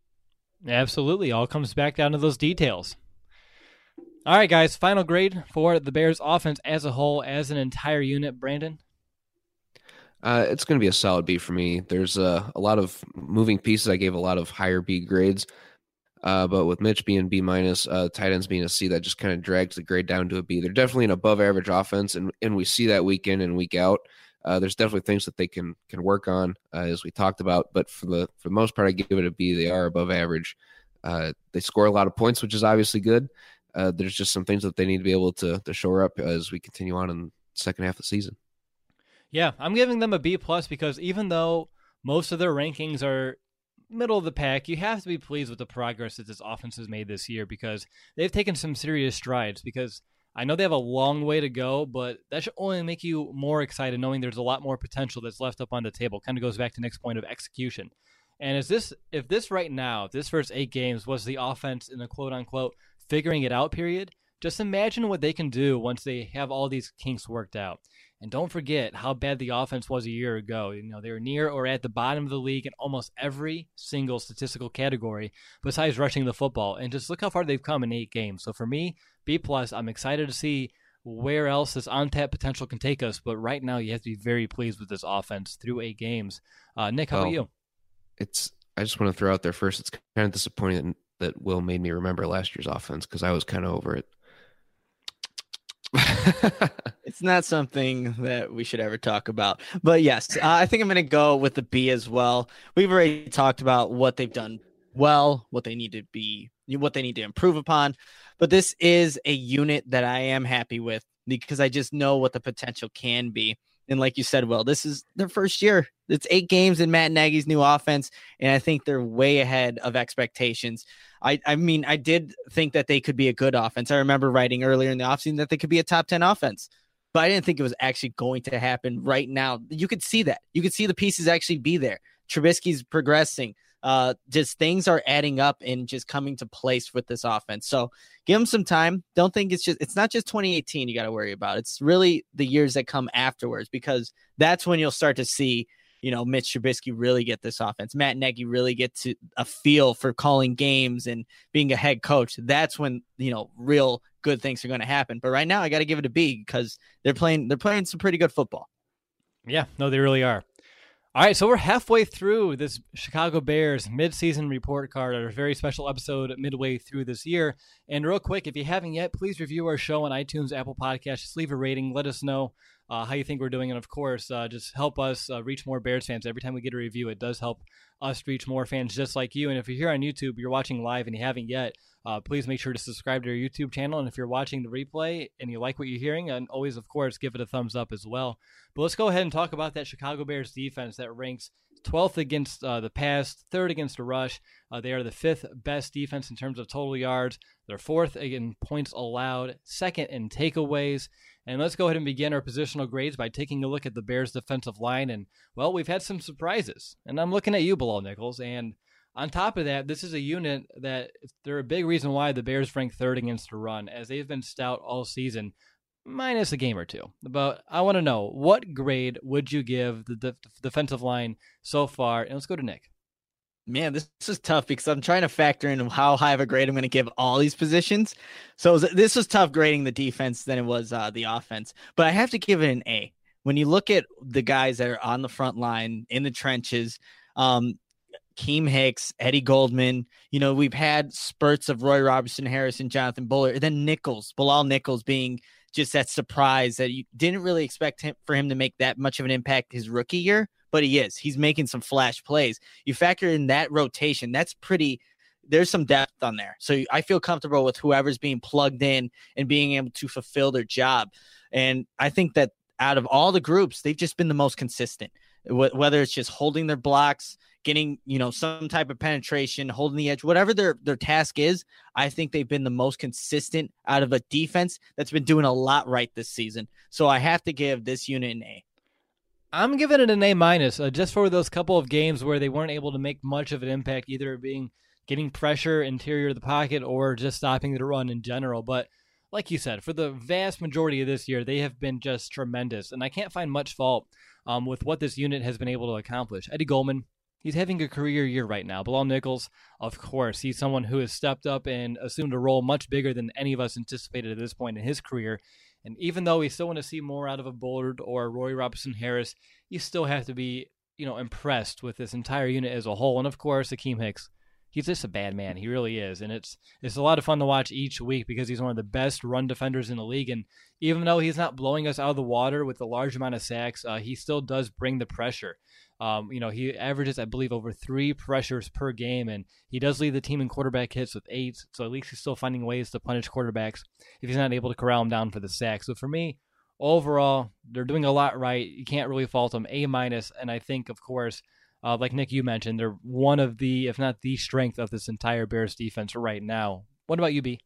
Absolutely. All comes back down to those details. All right, guys, final grade for the Bears offense as a whole, as an entire unit. Brandon? Uh, it's going to be a solid B for me. There's uh, a lot of moving pieces. I gave a lot of higher B grades, uh, but with Mitch being B minus, uh, tight ends being a C, that just kind of drags the grade down to a B. They're definitely an above average offense, and, and we see that week in and week out. Uh, there's definitely things that they can can work on, uh, as we talked about. But for the for the most part, I give it a B. They are above average. Uh, they score a lot of points, which is obviously good. Uh, there's just some things that they need to be able to, to shore up as we continue on in the second half of the season. Yeah, I'm giving them a B plus because even though most of their rankings are middle of the pack, you have to be pleased with the progress that this offense has made this year because they've taken some serious strides. Because I know they have a long way to go, but that should only make you more excited knowing there's a lot more potential that's left up on the table. Kind of goes back to Nick's point of execution. And is this if this right now, if this first eight games was the offense in the quote-unquote figuring it out period, just imagine what they can do once they have all these kinks worked out. And don't forget how bad the offense was a year ago. You know, they were near or at the bottom of the league in almost every single statistical category besides rushing the football. And just look how far they've come in eight games. So for me, B plus, I'm excited to see where else this untapped potential can take us. But right now, you have to be very pleased with this offense through eight games. Uh, Nick, how well, about you? It's I just want to throw out there first, it's kind of disappointing that Will made me remember last year's offense because I was kind of over it. It's not something that we should ever talk about. But yes, uh, I think I'm going to go with the B as well. We've already talked about what they've done well, what they need to be, what they need to improve upon. But this is a unit that I am happy with because I just know what the potential can be. And like you said, Will, this is their first year. It's eight games in Matt Nagy's new offense, and I think they're way ahead of expectations. I, I mean, I did think that they could be a good offense. I remember writing earlier in the offseason that they could be a top ten offense, but I didn't think it was actually going to happen right now. You could see that. You could see the pieces actually be there. Trubisky's progressing. Uh, just things are adding up and just coming to place with this offense. So give them some time. Don't think it's just, it's not just twenty eighteen you got to worry about. It's really the years that come afterwards, because that's when you'll start to see, you know, Mitch Trubisky really get this offense. Matt Nagy really get to a feel for calling games and being a head coach. That's when, you know, real good things are going to happen. But right now I got to give it a B because they're playing, they're playing some pretty good football. Yeah, no, they really are. All right, so we're halfway through this Chicago Bears midseason report card, our very special episode midway through this year. And real quick, if you haven't yet, please review our show on iTunes, Apple Podcasts. Just leave a rating. Let us know uh, how you think we're doing. And, of course, uh, just help us uh, reach more Bears fans. Every time we get a review, it does help us reach more fans just like you. And if you're here on YouTube, you're watching live and you haven't yet, uh, please make sure to subscribe to our YouTube channel. And if you're watching the replay and you like what you're hearing, and always, of course, give it a thumbs up as well. But let's go ahead and talk about that Chicago Bears defense that ranks twelfth against uh, the pass, third against the rush. Uh, they are the fifth best defense in terms of total yards. They're fourth in points allowed, second in takeaways. And let's go ahead and begin our positional grades by taking a look at the Bears defensive line. And, well, we've had some surprises. And I'm looking at you, Bilal Nichols. And on top of that, this is a unit that they're a big reason why the Bears rank third against the run, as they've been stout all season, minus a game or two. But I want to know, what grade would you give the def- defensive line so far? And let's go to Nick. Man, this, this is tough because I'm trying to factor in how high of a grade I'm going to give all these positions. So this was tough grading the defense than it was uh, the offense. But I have to give it an A. When you look at the guys that are on the front line, in the trenches, um, Keem Hicks, Eddie Goldman, you know, we've had spurts of Roy Robertson, Harrison, Jonathan Bullard, and then Nichols, Bilal Nichols being just that surprise that you didn't really expect him for him to make that much of an impact his rookie year, but he is. He's making some flash plays. You factor in that rotation, that's pretty, there's some depth on there. So I feel comfortable with whoever's being plugged in and being able to fulfill their job. And I think that out of all the groups, they've just been the most consistent, whether it's just holding their blocks, getting, you know, some type of penetration, holding the edge, whatever their, their task is. I think they've been the most consistent out of a defense that's been doing a lot right this season. So I have to give this unit an A. I'm giving it an A minus, uh, just for those couple of games where they weren't able to make much of an impact, either being getting pressure interior of the pocket or just stopping the run in general. But like you said, for the vast majority of this year, they have been just tremendous. And I can't find much fault um, with what this unit has been able to accomplish. Eddie Goldman, he's having a career year right now. Bilal Nichols, of course, he's someone who has stepped up and assumed a role much bigger than any of us anticipated at this point in his career. And even though we still want to see more out of a Bullard or Roy Robertson Harris, you still have to be, you know, impressed with this entire unit as a whole. And of course, Akeem Hicks, he's just a bad man. He really is. And it's it's a lot of fun to watch each week because he's one of the best run defenders in the league. And even though he's not blowing us out of the water with a large amount of sacks, uh, he still does bring the pressure. Um, you know, he averages, I believe, over three pressures per game, and he does lead the team in quarterback hits with eight. So at least he's still finding ways to punish quarterbacks if he's not able to corral him down for the sack. So for me, overall, they're doing a lot right. You can't really fault them. A minus, and I think, of course, uh, like Nick, you mentioned, they're one of the, if not the strength of this entire Bears defense right now. What about you, B?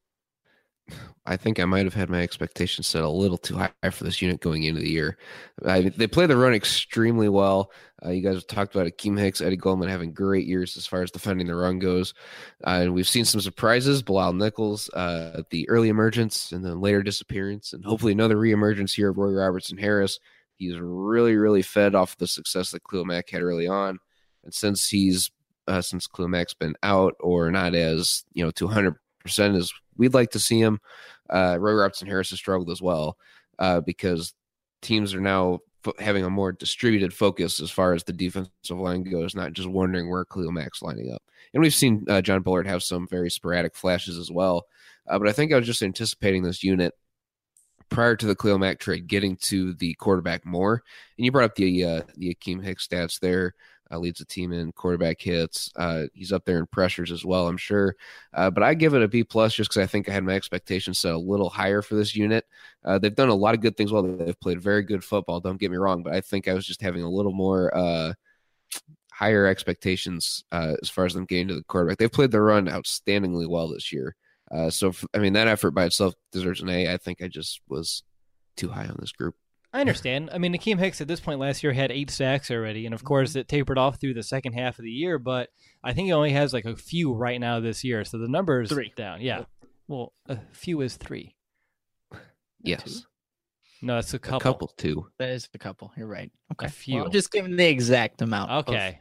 I think I might have had my expectations set a little too high for this unit going into the year. I, they play the run extremely well. Uh, you guys have talked about Akeem Hicks, Eddie Goldman having great years as far as defending the run goes. Uh, and we've seen some surprises. Bilal Nichols, uh, the early emergence and then later disappearance, and hopefully another reemergence here of Roy Robertson Harris. He's really, really fed off the success that Khalil Mack had early on. And since he's uh, since Khalil Mack's been out or not as, you know, to one hundred percent as we'd like to see him, uh, Roy Robertson Harris has struggled as well uh, because teams are now f- having a more distributed focus as far as the defensive line goes, not just wondering where Khalil Mack's lining up. And we've seen uh, John Bullard have some very sporadic flashes as well. Uh, but I think I was just anticipating this unit prior to the Khalil Mack trade getting to the quarterback more. And you brought up the uh, the Akeem Hicks stats there. Uh, leads the team in quarterback hits. Uh, he's up there in pressures as well, I'm sure. Uh, but I give it a B plus just because I think I had my expectations set a little higher for this unit. Uh, they've done a lot of good things well. They've played very good football, don't get me wrong, but I think I was just having a little more uh, higher expectations uh, as far as them getting to the quarterback. They've played the run outstandingly well this year. Uh, so, I mean, that effort by itself deserves an A. I think I just was too high on this group. I understand. I mean, Akeem Hicks at this point last year had eight sacks already, and of course it tapered off through the second half of the year, but I think he only has like a few right now this year, so the number's Three. down. Yeah. Well, a few is three. Yes. Two? No, that's a couple. A couple, too. That is a couple. You're right. Okay. A few. Well, I'm just giving the exact amount. of- Okay.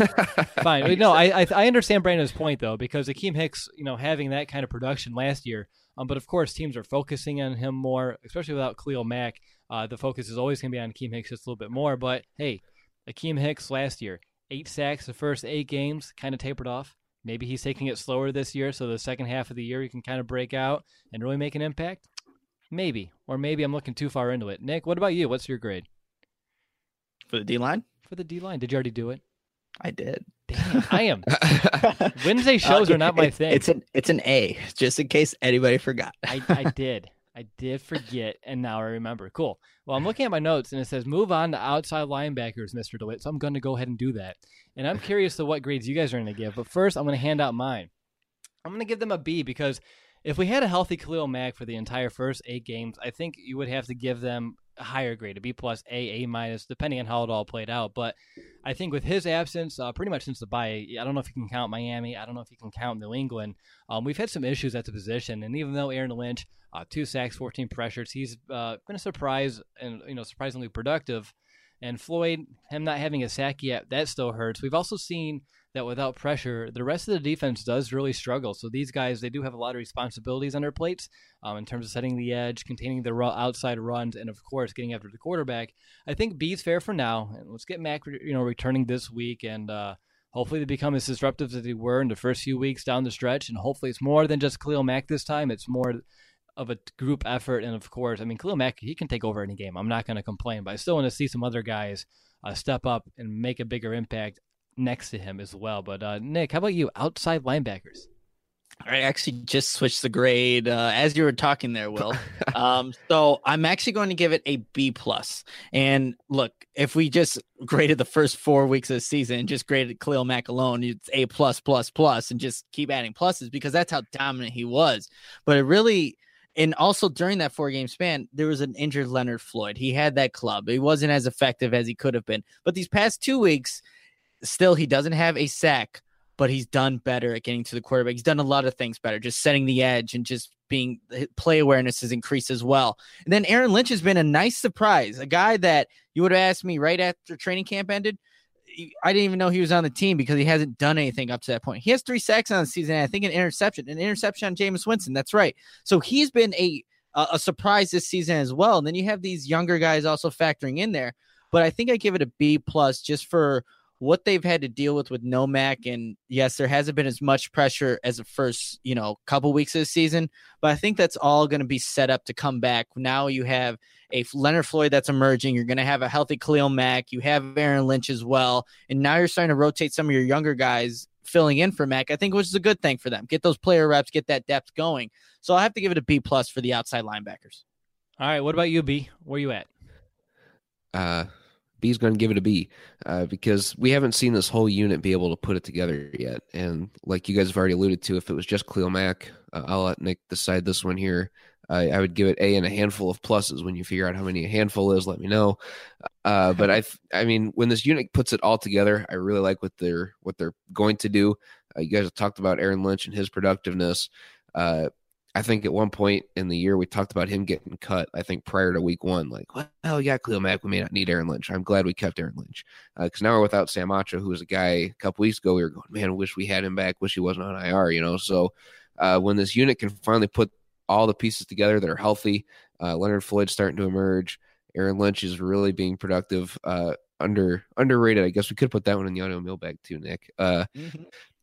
Fine. No, I, I I understand Brandon's point, though, because Akeem Hicks, you know, having that kind of production last year, um, but of course teams are focusing on him more, especially without Khalil Mack. Uh, the focus is always going to be on Akeem Hicks just a little bit more. But, hey, Akeem Hicks last year, eight sacks the first eight games, kind of tapered off. Maybe he's taking it slower this year, so the second half of the year he can kind of break out and really make an impact. Maybe. Or maybe I'm looking too far into it. Nick, what about you? What's your grade? For the D-line? For the D-line. Did you already do it? I did. Damn, I am. Wednesday shows Uh, are not my it- thing. It's an it's an A, just in case anybody forgot. I, I did. I did forget, and now I remember. Cool. Well, I'm looking at my notes, and it says move on to outside linebackers, Mister DeWitt. So I'm going to go ahead and do that. And I'm curious to what grades you guys are going to give. But first, I'm going to hand out mine. I'm going to give them a B because if we had a healthy Khalil Mack for the entire first eight games, I think you would have to give them a higher grade, a B plus, A, A minus, depending on how it all played out. But I think with his absence, uh, pretty much since the bye, I don't know if you can count Miami. I don't know if you can count New England. Um, we've had some issues at the position, and even though Aaron Lynch, uh, two sacks, fourteen pressures, he's uh, been a surprise and you know surprisingly productive. And Floyd, him not having a sack yet, that still hurts. We've also seen that without pressure, the rest of the defense does really struggle. So these guys, they do have a lot of responsibilities on their plates um, in terms of setting the edge, containing the ru- outside runs, and of course getting after the quarterback. I think B's fair for now. And let's get Mack, you know, returning this week, and uh, hopefully they become as disruptive as they were in the first few weeks down the stretch. And hopefully it's more than just Khalil Mack this time. It's more of a group effort. And of course, I mean, Khalil Mack, he can take over any game. I'm not going to complain, but I still want to see some other guys uh, step up and make a bigger impact next to him as well. But uh, Nick, how about you? Outside linebackers. I actually just switched the grade uh, as you were talking there, Will. um, so I'm actually going to give it a B plus. And look, if we just graded the first four weeks of the season and just graded Khalil Mack alone, it's A plus plus plus, and just keep adding pluses because that's how dominant he was. But it really. And also during that four-game span, there was an injured Leonard Floyd. He had that club. He wasn't as effective as he could have been. But these past two weeks, still, he doesn't have a sack, but he's done better at getting to the quarterback. He's done a lot of things better, just setting the edge and just being – play awareness has increased as well. And then Aaron Lynch has been a nice surprise, a guy that you would have asked me right after training camp ended. I didn't even know he was on the team because he hasn't done anything up to that point. He has three sacks on the season, and I think an interception, an interception on Jameis Winston. That's right. So he's been a a surprise this season as well. And then you have these younger guys also factoring in there. But I think I give it a B plus just for what they've had to deal with with no Mac, and yes, there hasn't been as much pressure as the first, you know, couple weeks of the season, but I think that's all going to be set up to come back. Now you have a Leonard Floyd that's emerging. You're going to have a healthy Khalil Mack. You have Aaron Lynch as well, and now you're starting to rotate some of your younger guys filling in for Mac, I think, which is a good thing for them. Get those player reps, get that depth going. So I have to give it a B plus for the outside linebackers. All right, what about you, B? Where you at? Uh, B's going to give it a B uh, because we haven't seen this whole unit be able to put it together yet. And like you guys have already alluded to, if it was just Khalil Mack, uh, I'll let Nick decide this one here. Uh, I would give it A and a handful of pluses. When you figure out how many a handful is, let me know. Uh, but I, th- I mean, when this unit puts it all together, I really like what they're what they're going to do. Uh, you guys have talked about Aaron Lynch and his productiveness. Uh, I think at one point in the year we talked about him getting cut. I think prior to week one, like, well, yeah, Khalil Mack, we may not need Aaron Lynch. I'm glad we kept Aaron Lynch because uh, now we're without Sam Acho, who was a guy a couple weeks ago. We were going, man, I wish we had him back. Wish he wasn't on I R. You know, so uh, when this unit can finally put all the pieces together that are healthy. Uh, Leonard Floyd starting to emerge. Aaron Lynch is really being productive. Uh, under underrated, I guess we could put that one in the audio mailbag too, Nick. Uh, mm-hmm.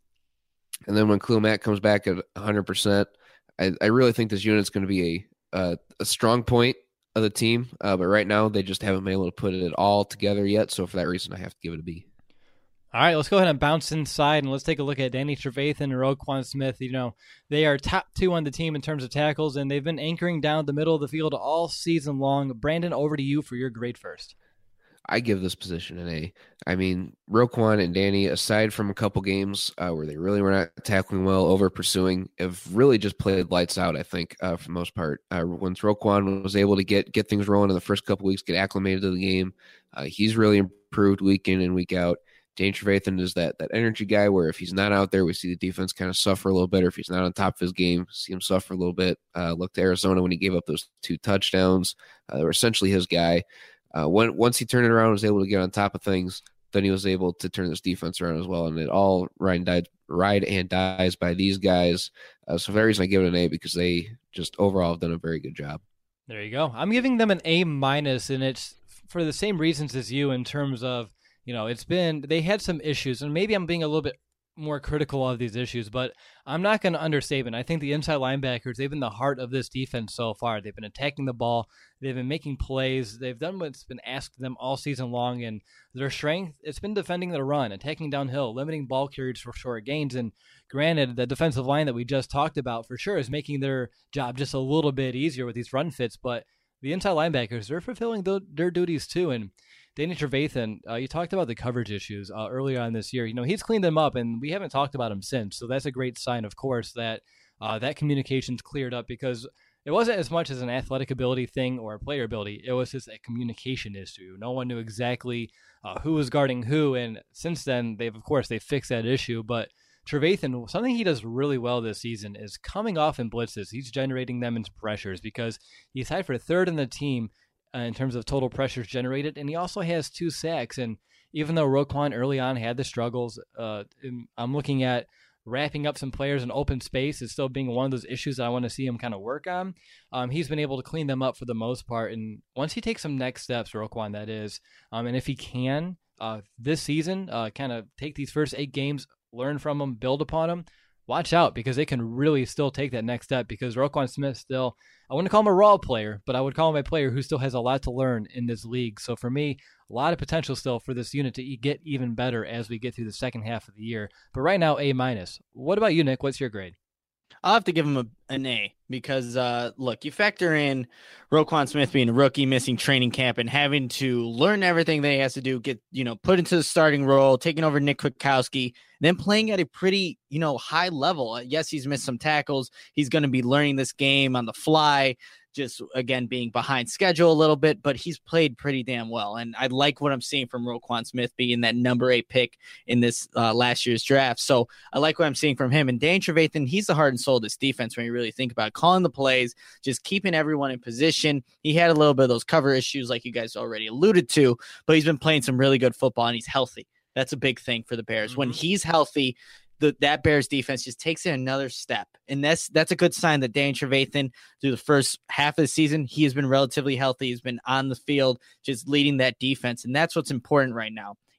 And then when Khalil Mack comes back at one hundred percent, I, I really think this unit's going to be a, a a strong point of the team. Uh, but right now, they just haven't been able to put it all together yet. So for that reason, I have to give it a B. All right, let's go ahead and bounce inside, and let's take a look at Danny Trevathan and Roquan Smith. You know, they are top two on the team in terms of tackles, and they've been anchoring down the middle of the field all season long. Brandon, over to you for your grade first. I give this position an A. I mean, Roquan and Danny, aside from a couple games uh, where they really were not tackling well, over pursuing, have really just played lights out, I think, uh, for the most part. Uh, once Roquan was able to get get things rolling in the first couple weeks, get acclimated to the game, uh, he's really improved week in and week out. Danny Trevathan is that that energy guy where if he's not out there, we see the defense kind of suffer a little bit. Or if he's not on top of his game, see him suffer a little bit. Uh, look to Arizona when he gave up those two touchdowns. Uh, they were essentially his guy. Uh, when, once he turned it around, was able to get on top of things, then he was able to turn this defense around as well. And it all ride and dies, ride and dies by these guys. Uh, so for that reason, I give it an A because they just overall have done a very good job. There you go. I'm giving them an A minus, and it's for the same reasons as you in terms of, you know, it's been, they had some issues, and maybe I'm being a little bit more critical of these issues, but I'm not going to understate it. I think the inside linebackers, they've been the heart of this defense so far. They've been attacking the ball. They've been making plays. They've done what's been asked of them all season long, and their strength, it's been defending the run, attacking downhill, limiting ball carriers for short gains. And granted, the defensive line that we just talked about for sure is making their job just a little bit easier with these run fits, but the inside linebackers, they're fulfilling the, their duties too. And Danny Trevathan, uh, you talked about the coverage issues uh, earlier on this year. You know, he's cleaned them up, and we haven't talked about him since. So that's a great sign, of course, that uh, that communication's cleared up, because it wasn't as much as an athletic ability thing or a player ability. It was just a communication issue. No one knew exactly uh, who was guarding who, and since then, they've of course they fixed that issue. But Trevathan, something he does really well this season is coming off in blitzes. He's generating them into pressures because he's tied for third in the team Uh, in terms of total pressures generated, and he also has two sacks. And even though Roquan early on had the struggles, uh, I'm looking at wrapping up some players in open space as still being one of those issues that I want to see him kind of work on. Um, he's been able to clean them up for the most part, and once he takes some next steps, Roquan, that is, um, and if he can uh, this season, uh, kind of take these first eight games, learn from them, build upon them, watch out, because they can really still take that next step, because Roquan Smith still, I wouldn't call him a raw player, but I would call him a player who still has a lot to learn in this league. So for me, a lot of potential still for this unit to get even better as we get through the second half of the year. But right now, A minus. What about you, Nick? What's your grade? I'll have to give him a, an A because, uh, look, you factor in Roquan Smith being a rookie, missing training camp, and having to learn everything that he has to do, get, you know, put into the starting role, taking over Nick Kwiatkowski, then playing at a pretty, you know, high level. Yes, he's missed some tackles. He's going to be learning this game on the fly, just, again, being behind schedule a little bit, but he's played pretty damn well. And I like what I'm seeing from Roquan Smith being that number eight pick in this uh, last year's draft. So I like what I'm seeing from him. And Danny Trevathan, he's the heart and soul of this defense when you really think about it. Calling the plays, just keeping everyone in position. He had a little bit of those cover issues like you guys already alluded to, but he's been playing some really good football, and he's healthy. That's a big thing for the Bears. Mm-hmm. When he's healthy, The, that Bears defense just takes it another step. And that's that's a good sign that Danny Trevathan, through the first half of the season, he has been relatively healthy. He's been on the field, just leading that defense. And that's what's important right now.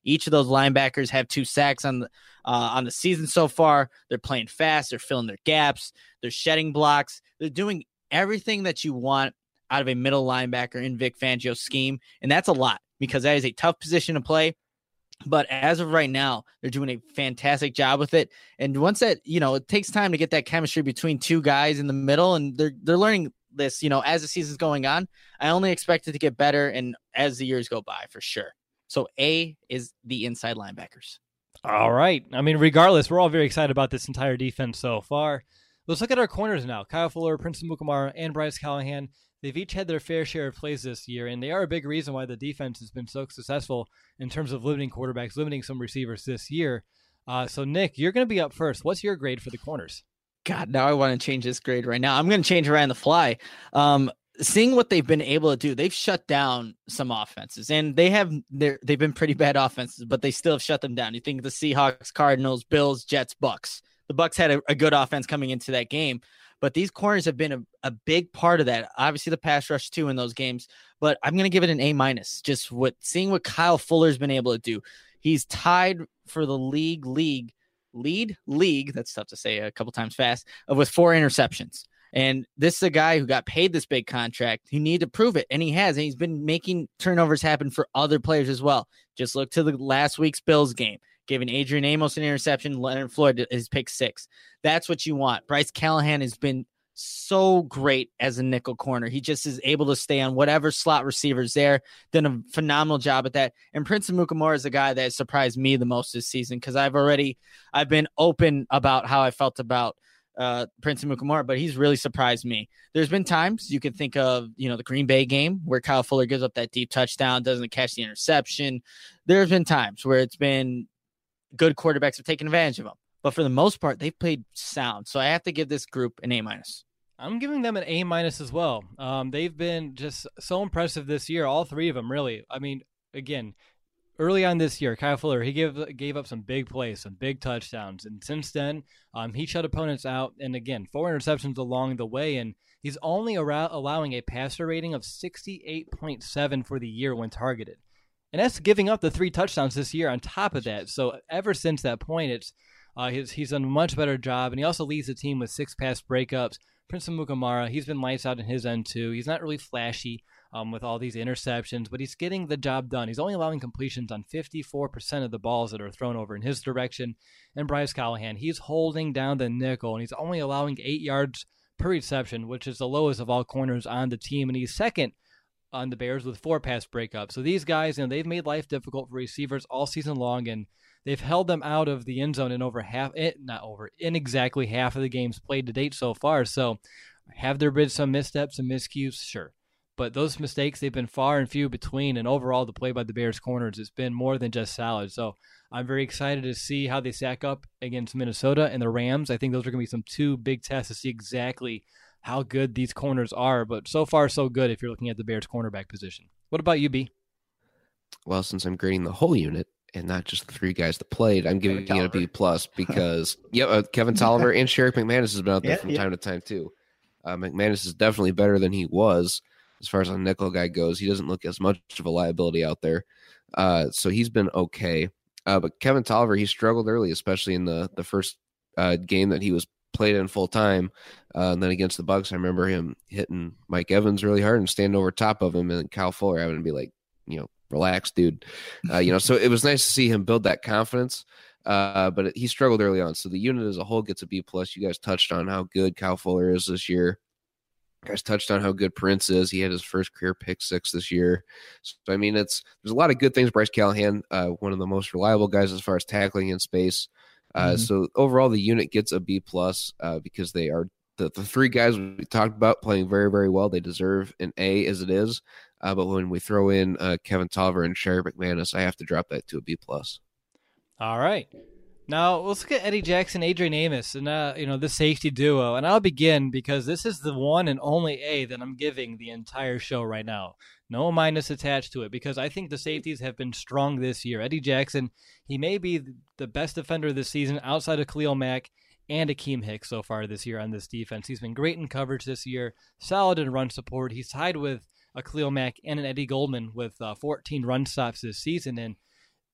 Each of those linebackers have two sacks on the uh, on the season so far. They're playing fast. They're filling their gaps. They're shedding blocks. They're doing everything that you want out of a middle linebacker in Vic Fangio's scheme, and that's a lot because that is a tough position to play. But as of right now, they're doing a fantastic job with it. And once that, you know, it takes time to get that chemistry between two guys in the middle, and they're they're learning this, you know, as the season's going on. I only expect it to get better and as the years go by, for sure. So A is the inside linebackers. All right. I mean, regardless, we're all very excited about this entire defense so far. Let's look at our corners now. Kyle Fuller, Prince Amukamara, and Bryce Callahan. They've each had their fair share of plays this year, and they are a big reason why the defense has been so successful in terms of limiting quarterbacks, limiting some receivers this year. Uh, so, Nick, you're going to be up first. What's your grade for the corners? God, now I want to change this grade right now. I'm going to change it right on the fly. Um, seeing what they've been able to do, they've shut down some offenses, and they have they're, they've been pretty bad offenses, but they still have shut them down. You think of the Seahawks, Cardinals, Bills, Jets, Bucks. The Bucks had a, a good offense coming into that game. But these corners have been a, a big part of that. Obviously, the pass rush, too, in those games. But I'm going to give it an A minus. Just what seeing what Kyle Fuller's been able to do. He's tied for the league, league, lead, league. That's tough to say a couple times fast, uh, with four interceptions. And this is a guy who got paid this big contract. He needed to prove it, and he has. And he's been making turnovers happen for other players as well. Just look to the last week's Bills game. Giving Adrian Amos an interception, Leonard Floyd his pick six. That's what you want. Bryce Callahan has been so great as a nickel corner. He just is able to stay on whatever slot receiver's there. Done a phenomenal job at that. And Prince Amukamara is a guy that surprised me the most this season because I've already I've been open about how I felt about uh, Prince Amukamara, but he's really surprised me. There's been times you can think of, you know, the Green Bay game where Kyle Fuller gives up that deep touchdown, doesn't catch the interception. There's been times where it's been good quarterbacks have taken advantage of them. But for the most part, they've played sound. So I have to give this group an A minus. I'm giving them an A minus as well. Um, they've been just so impressive this year. All three of them, really. I mean, again, early on this year, Kyle Fuller, he gave gave up some big plays, some big touchdowns. And since then, um, he shut opponents out. And again, four interceptions along the way. And he's only ar- allowing a passer rating of sixty-eight point seven for the year when targeted. And that's giving up the three touchdowns this year on top of that. So ever since that point, it's uh, he's, he's done a much better job. And he also leads the team with six pass breakups. Prince Amukamara, he's been lights out in his end too. He's not really flashy um, with all these interceptions, but he's getting the job done. He's only allowing completions on fifty-four percent of the balls that are thrown over in his direction. And Bryce Callahan, he's holding down the nickel, and he's only allowing eight yards per reception, which is the lowest of all corners on the team. And he's second on the Bears with four pass breakups. So these guys, you know, they've made life difficult for receivers all season long, and they've held them out of the end zone in over half, not over, in exactly half of the games played to date so far. So have there been some missteps and miscues? Sure. But those mistakes, they've been far and few between, and overall the play by the Bears corners has been more than just solid. So I'm very excited to see how they stack up against Minnesota and the Rams. I think those are going to be some two big tests to see exactly how good these corners are, but so far so good if you're looking at the Bears cornerback position. What about you, B? Well, since I'm grading the whole unit and not just the three guys that played, I'm giving it a B plus because yeah, uh, Kevin Tolliver and Sherrick McManus has been out there yeah, from yeah. time to time too. Uh, McManus is definitely better than he was as far as a nickel guy goes. He doesn't look as much of a liability out there, uh, so he's been okay. Uh, but Kevin Tolliver, he struggled early, especially in the the first uh, game that he was played in full time. Uh, and then against the Bucks, I remember him hitting Mike Evans really hard and standing over top of him, and Kyle Fuller having to be like, you know, relax, dude. Uh, you know, so it was nice to see him build that confidence. Uh, but it, he struggled early on. So the unit as a whole gets a B plus. You guys touched on how good Kyle Fuller is this year. You guys touched on how good Prince is. He had his first career pick six this year. So I mean, it's there's a lot of good things. Bryce Callahan, uh, one of the most reliable guys as far as tackling in space. Uh, mm-hmm. So overall, the unit gets a B plus uh, because they are the, the three guys we talked about playing very, very well. They deserve an A as it is. Uh, but when we throw in uh, Kevin Tolliver and Sherrick McManus, I have to drop that to a B plus. All right. Now let's look at Eddie Jackson, Adrian Amos, and uh, you know, the safety duo. And I'll begin because this is the one and only A that I'm giving the entire show right now. No minus attached to it because I think the safeties have been strong this year. Eddie Jackson, he may be the best defender this season outside of Khalil Mack and Akeem Hicks so far this year on this defense. He's been great in coverage this year, solid in run support. He's tied with a Khalil Mack and an Eddie Goldman with uh, fourteen run stops this season. And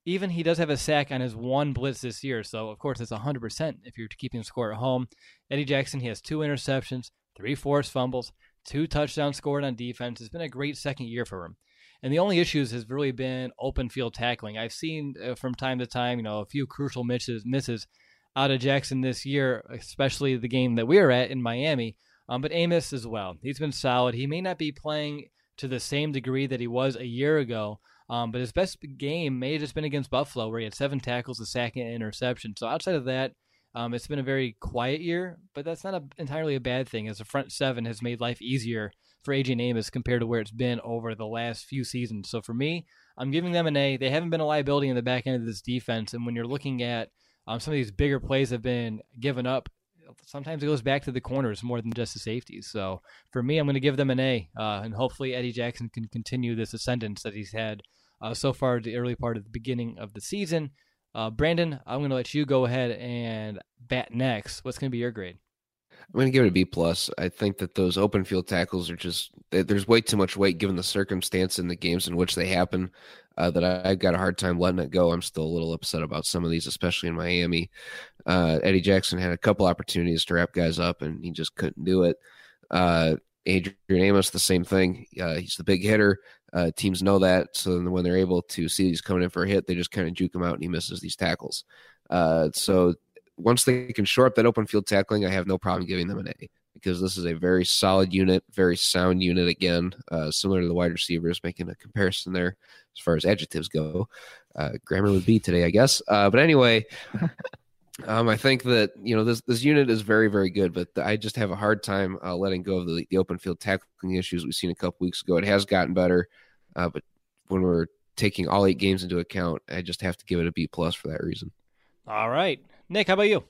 even he does have a sack on his one blitz this year. So, of course, it's one hundred percent if you're keeping score at home. Eddie Jackson, he has two interceptions, three forced fumbles, two touchdowns scored on defense. It's been a great second year for him. And the only issues has really been open field tackling. I've seen uh, from time to time, you know, a few crucial misses, misses out of Jackson this year, especially the game that we were at in Miami. Um, but Amos as well. He's been solid. He may not be playing to the same degree that he was a year ago, um, but his best game may have just been against Buffalo, where he had seven tackles, a sack, and an interception. So outside of that, um, it's been a very quiet year, but that's not a, entirely a bad thing, as the front seven has made life easier for Adrian Amos compared to where it's been over the last few seasons. So for me, I'm giving them an A. They haven't been a liability in the back end of this defense, and when you're looking at um, some of these bigger plays have been given up, sometimes it goes back to the corners more than just the safeties. So for me, I'm going to give them an A, uh, and hopefully Eddie Jackson can continue this ascendance that he's had uh, so far the early part of the beginning of the season. Uh, Brandon, I'm going to let you go ahead and bat next. What's going to be your grade? I'm going to give it a B plus. I think that those open field tackles are just, there's way too much weight given the circumstance in the games in which they happen uh, that I, I've got a hard time letting it go. I'm still a little upset about some of these, especially in Miami. Uh, Eddie Jackson had a couple opportunities to wrap guys up, and he just couldn't do it. Uh, Adrian Amos, the same thing. Uh, he's the big hitter. Uh, teams know that. So when they're able to see he's coming in for a hit, they just kind of juke him out, and he misses these tackles. Uh, so once they can shore up that open field tackling, I have no problem giving them an A, because this is a very solid unit, very sound unit again, uh, similar to the wide receivers, making a comparison there as far as adjectives go. Uh, grammar would be today, I guess. Uh, but anyway, um, I think that, you know, this, this unit is very, very good, but I just have a hard time uh, letting go of the, the open field tackling issues we've seen a couple weeks ago. It has gotten better, uh, but when we're taking all eight games into account, I just have to give it a B plus for that reason. All right. Nick, how about you?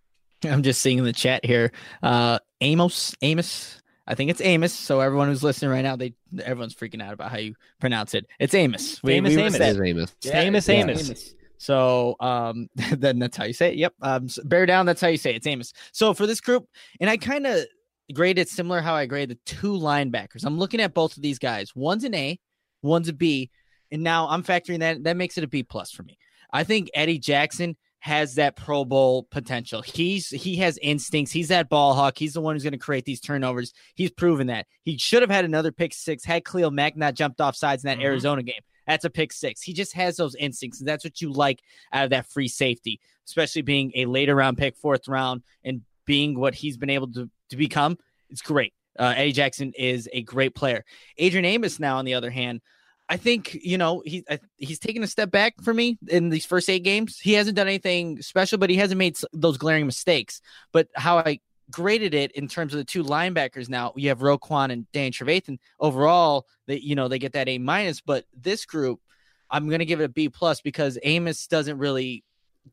I'm just seeing in the chat here. Uh, Amos, Amos. I think it's Amos. So everyone who's listening right now, they everyone's freaking out about how you pronounce it. It's Amos. We, Amos, we Amos. It is Amos. Yeah, Amos, yeah, Amos. Amos. So um, then that's how you say it. Yep. Um, so bear down. That's how you say it. It's Amos. So for this group, and I kind of grade it similar how I grade the two linebackers. I'm looking at both of these guys. One's an A, one's a B, and now I'm factoring that. That makes it a B plus for me. I think Eddie Jackson has that Pro Bowl potential. He's he has instincts. He's that ball hawk. He's the one who's going to create these turnovers. He's proven that. He should have had another pick six had Khalil Mack not jumped off sides in that mm-hmm. Arizona game. That's a pick six. He just has those instincts, and that's what you like out of that free safety, especially being a later round pick, fourth round, and being what he's been able to, to become. It's great. Uh, Eddie Jackson is a great player. Adrian Amos now, on the other hand, I think, you know, he, he's taken a step back for me in these first eight games. He hasn't done anything special, but he hasn't made those glaring mistakes. But how I graded it in terms of the two linebackers now, you have Roquan and Dan Trevathan. Overall, they, you know, they get that A minus. But this group, I'm going to give it a B plus because Amos doesn't really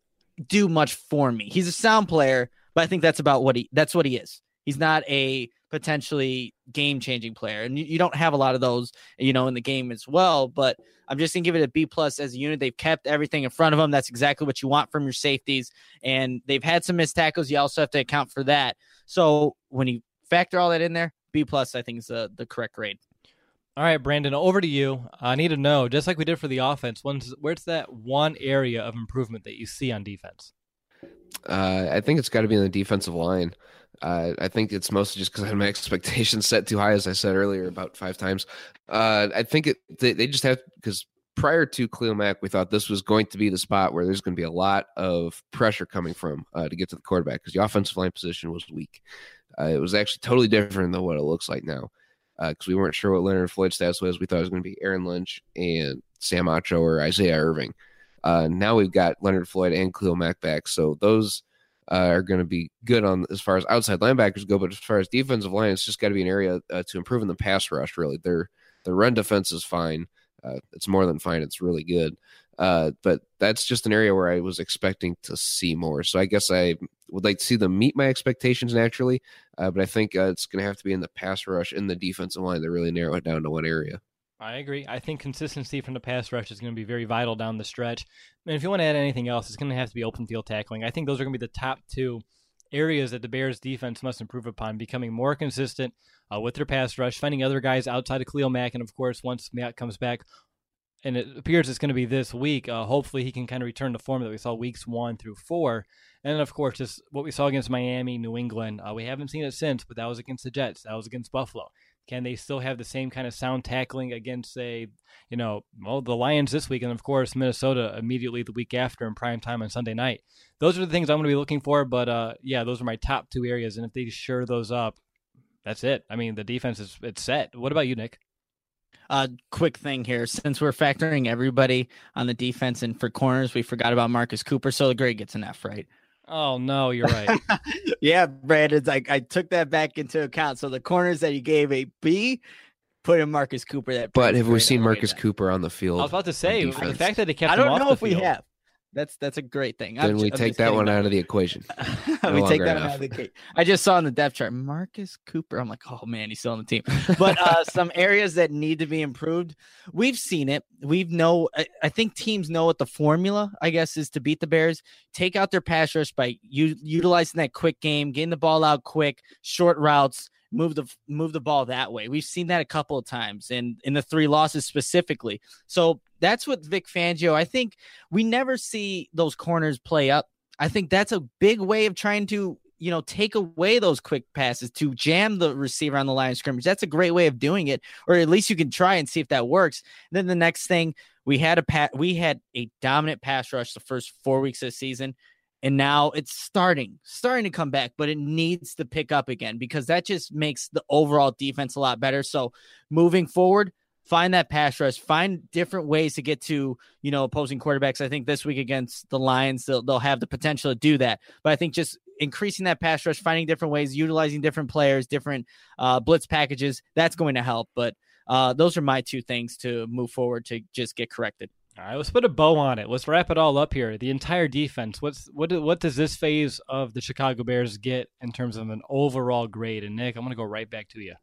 do much for me. He's a sound player, but I think that's about what he, that's what he is. He's not a potentially game-changing player, and you, you don't have a lot of those, you know, in the game as well. But I'm just gonna give it a B plus as a unit. They've kept everything in front of them. That's exactly what you want from your safeties, and they've had some missed tackles. You also have to account for that. So when you factor all that in there, B plus I think is the, the correct grade. All right, Brandon, over to you. I need to know, just like we did for the offense, when's, where's that one area of improvement that you see on defense? Uh, I think it's got to be in the defensive line. Uh, I think it's mostly just because I had my expectations set too high, as I said earlier, about five times. Uh, I think it, they, they just have, because prior to Khalil Mack, we thought this was going to be the spot where there's going to be a lot of pressure coming from uh, to get to the quarterback, because the offensive line position was weak. Uh, it was actually totally different than what it looks like now, because uh, we weren't sure what Leonard Floyd's status was. We thought it was going to be Aaron Lynch and Sam Acho or Isaiah Irving. Uh, now we've got Leonard Floyd and Khalil Mack back, so those uh, are going to be good on as far as outside linebackers go. But as far as defensive line, it's just got to be an area uh, to improve in the pass rush. Really, their the run defense is fine. Uh, it's more than fine. It's really good. Uh, but that's just an area where I was expecting to see more. So I guess I would like to see them meet my expectations naturally. Uh, but I think uh, it's going to have to be in the pass rush in the defensive line to really narrow it down to one area. I agree. I think consistency from the pass rush is going to be very vital down the stretch. And if you want to add anything else, it's going to have to be open field tackling. I think those are going to be the top two areas that the Bears defense must improve upon, becoming more consistent uh, with their pass rush, finding other guys outside of Khalil Mack. And of course, once Mack comes back, and it appears it's going to be this week. Uh, hopefully he can kind of return to form that we saw weeks one through four. And then, of course, just what we saw against Miami, New England. Uh, we haven't seen it since, but that was against the Jets. That was against Buffalo. Can they still have the same kind of sound tackling against, say, you know, well, the Lions this week, and of course Minnesota immediately the week after in prime time on Sunday night? Those are the things I'm going to be looking for. But uh, yeah, those are my top two areas, and if they shore those up, that's it. I mean, the defense is it's set. What about you, Nick? Uh, quick thing here, since we're factoring everybody on the defense and for corners, we forgot about Marcus Cooper. So the grade gets an F, right? Oh no, you're right. Yeah, Brad, it's like I took that back into account. So the corners that you gave a B, put in Marcus Cooper. That but have we grade seen away Marcus then. Cooper on the field? I was about to say the defense? fact that they kept I him don't off know the if we field. have. That's that's a great thing. Then I'm we ju- I'm take just that kidding one about out of the equation. No we take longer that an one F. out of the cake. I just saw on the depth chart Marcus Cooper. I'm like, oh man, he's still on the team. But uh, some areas that need to be improved. We've seen it. We've know. I, I think teams know what the formula, I guess, is to beat the Bears. Take out their pass rush by u- utilizing that quick game, getting the ball out quick, short routes. Move the move the ball that way. We've seen that a couple of times, and in the three losses specifically. So that's what Vic Fangio. I think we never see those corners play up. I think that's a big way of trying to, you know, take away those quick passes to jam the receiver on the line of scrimmage. That's a great way of doing it, or at least you can try and see if that works. And then the next thing, we had a pat, we had a dominant pass rush the first four weeks of the season. And now it's starting, starting to come back, but it needs to pick up again because that just makes the overall defense a lot better. So moving forward, find that pass rush, find different ways to get to, you know, opposing quarterbacks. I think this week against the Lions, they'll, they'll have the potential to do that. But I think just increasing that pass rush, finding different ways, utilizing different players, different uh, blitz packages, that's going to help. But uh, those are my two things to move forward to just get corrected. All right, let's put a bow on it. Let's wrap it all up here. The entire defense. What's what? What does this phase of the Chicago Bears get in terms of an overall grade? And Nick, I'm going to go right back to you.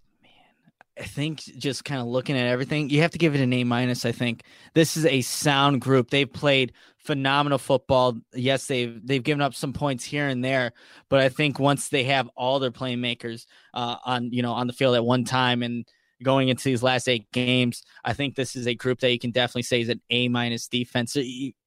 I think just kind of looking at everything, you have to give it an A minus. I think this is a sound group. They've played phenomenal football. Yes, they've they've given up some points here and there, but I think once they have all their playmakers uh, on you know on the field at one time and going into these last eight games, I think this is a group that you can definitely say is an A minus defense.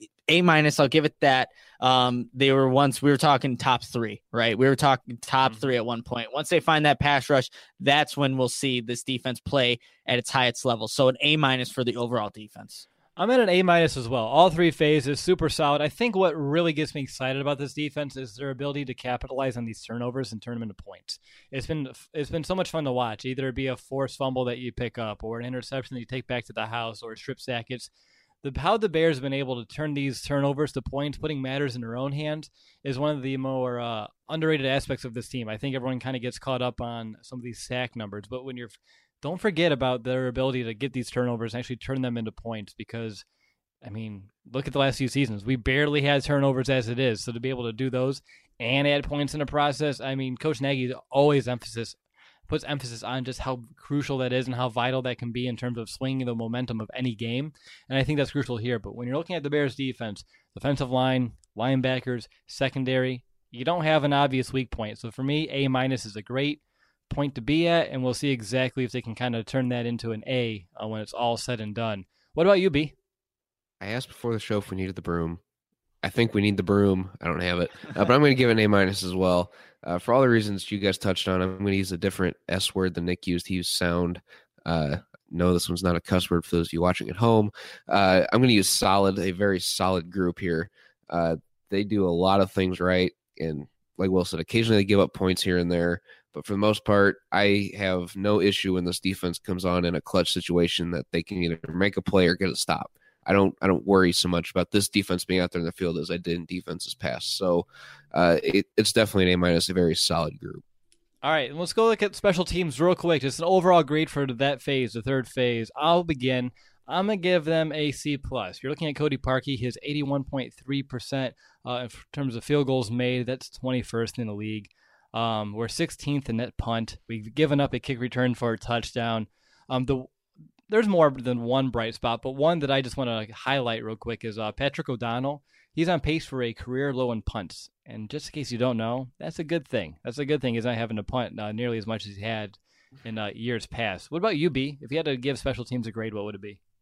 A minus, I'll give it that. Um, they were once we were talking top three, right? We were talking top Mm-hmm. three at one point. Once they find that pass rush, that's when we'll see this defense play at its highest level. So an A minus for the overall defense. I'm at an A minus as well. All three phases, super solid. I think what really gets me excited about this defense is their ability to capitalize on these turnovers and turn them into points. It's been it's been so much fun to watch. Either it be a forced fumble that you pick up, or an interception that you take back to the house, or a strip sack. It's the how the Bears have been able to turn these turnovers to points, putting matters in their own hands, is one of the more uh, underrated aspects of this team. I think everyone kind of gets caught up on some of these sack numbers, but when you're don't forget about their ability to get these turnovers and actually turn them into points because, I mean, look at the last few seasons. We barely had turnovers as it is. So to be able to do those and add points in the process, I mean, Coach Nagy always emphasis puts emphasis on just how crucial that is and how vital that can be in terms of swinging the momentum of any game. And I think that's crucial here. But when you're looking at the Bears defense, defensive line, linebackers, secondary, you don't have an obvious weak point. So for me, A minus is a great point to be at, and we'll see exactly if they can kind of turn that into an A uh, when it's all said and done. What about you, B? I asked before the show if we needed the broom. I think we need the broom. I don't have it, uh, but I'm going to give it an A minus as well. Uh, for all the reasons you guys touched on, I'm going to use a different S word than Nick used. He used sound. Uh, no, this one's not a cuss word for those of you watching at home. Uh, I'm going to use solid, a very solid group here. Uh, they do a lot of things right, and like Will said, occasionally they give up points here and there. But for the most part, I have no issue when this defense comes on in a clutch situation that they can either make a play or get a stop. I don't I don't worry so much about this defense being out there in the field as I did in defenses past. So uh, it, it's definitely an A minus, a very solid group. All right, let's go look at special teams real quick. Just an overall grade for that phase, the third phase. I'll begin. I'm going to give them a C+. plus. You're looking at Cody Parkey, his eighty-one point three percent uh, in terms of field goals made. That's twenty-first in the league. Um, we're sixteenth in net punt. We've given up a kick return for a touchdown. Um, the There's more than one bright spot, but one that I just want to highlight real quick is uh, Patrick O'Donnell. He's on pace for a career low in punts. And just in case you don't know, that's a good thing. That's a good thing. He's not having to punt uh, nearly as much as he had in uh, years past. What about you, B? If you had to give special teams a grade, what would it be?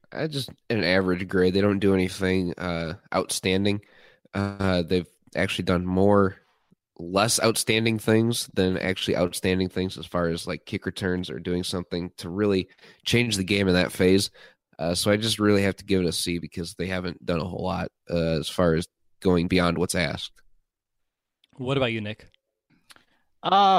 I just an average grade. They don't do anything uh, outstanding. Uh, they've actually done more less outstanding things than actually outstanding things as far as like kick returns or doing something to really change the game in that phase. Uh, so I just really have to give it a C because they haven't done a whole lot uh, as far as going beyond what's asked. What about you, Nick? Uh,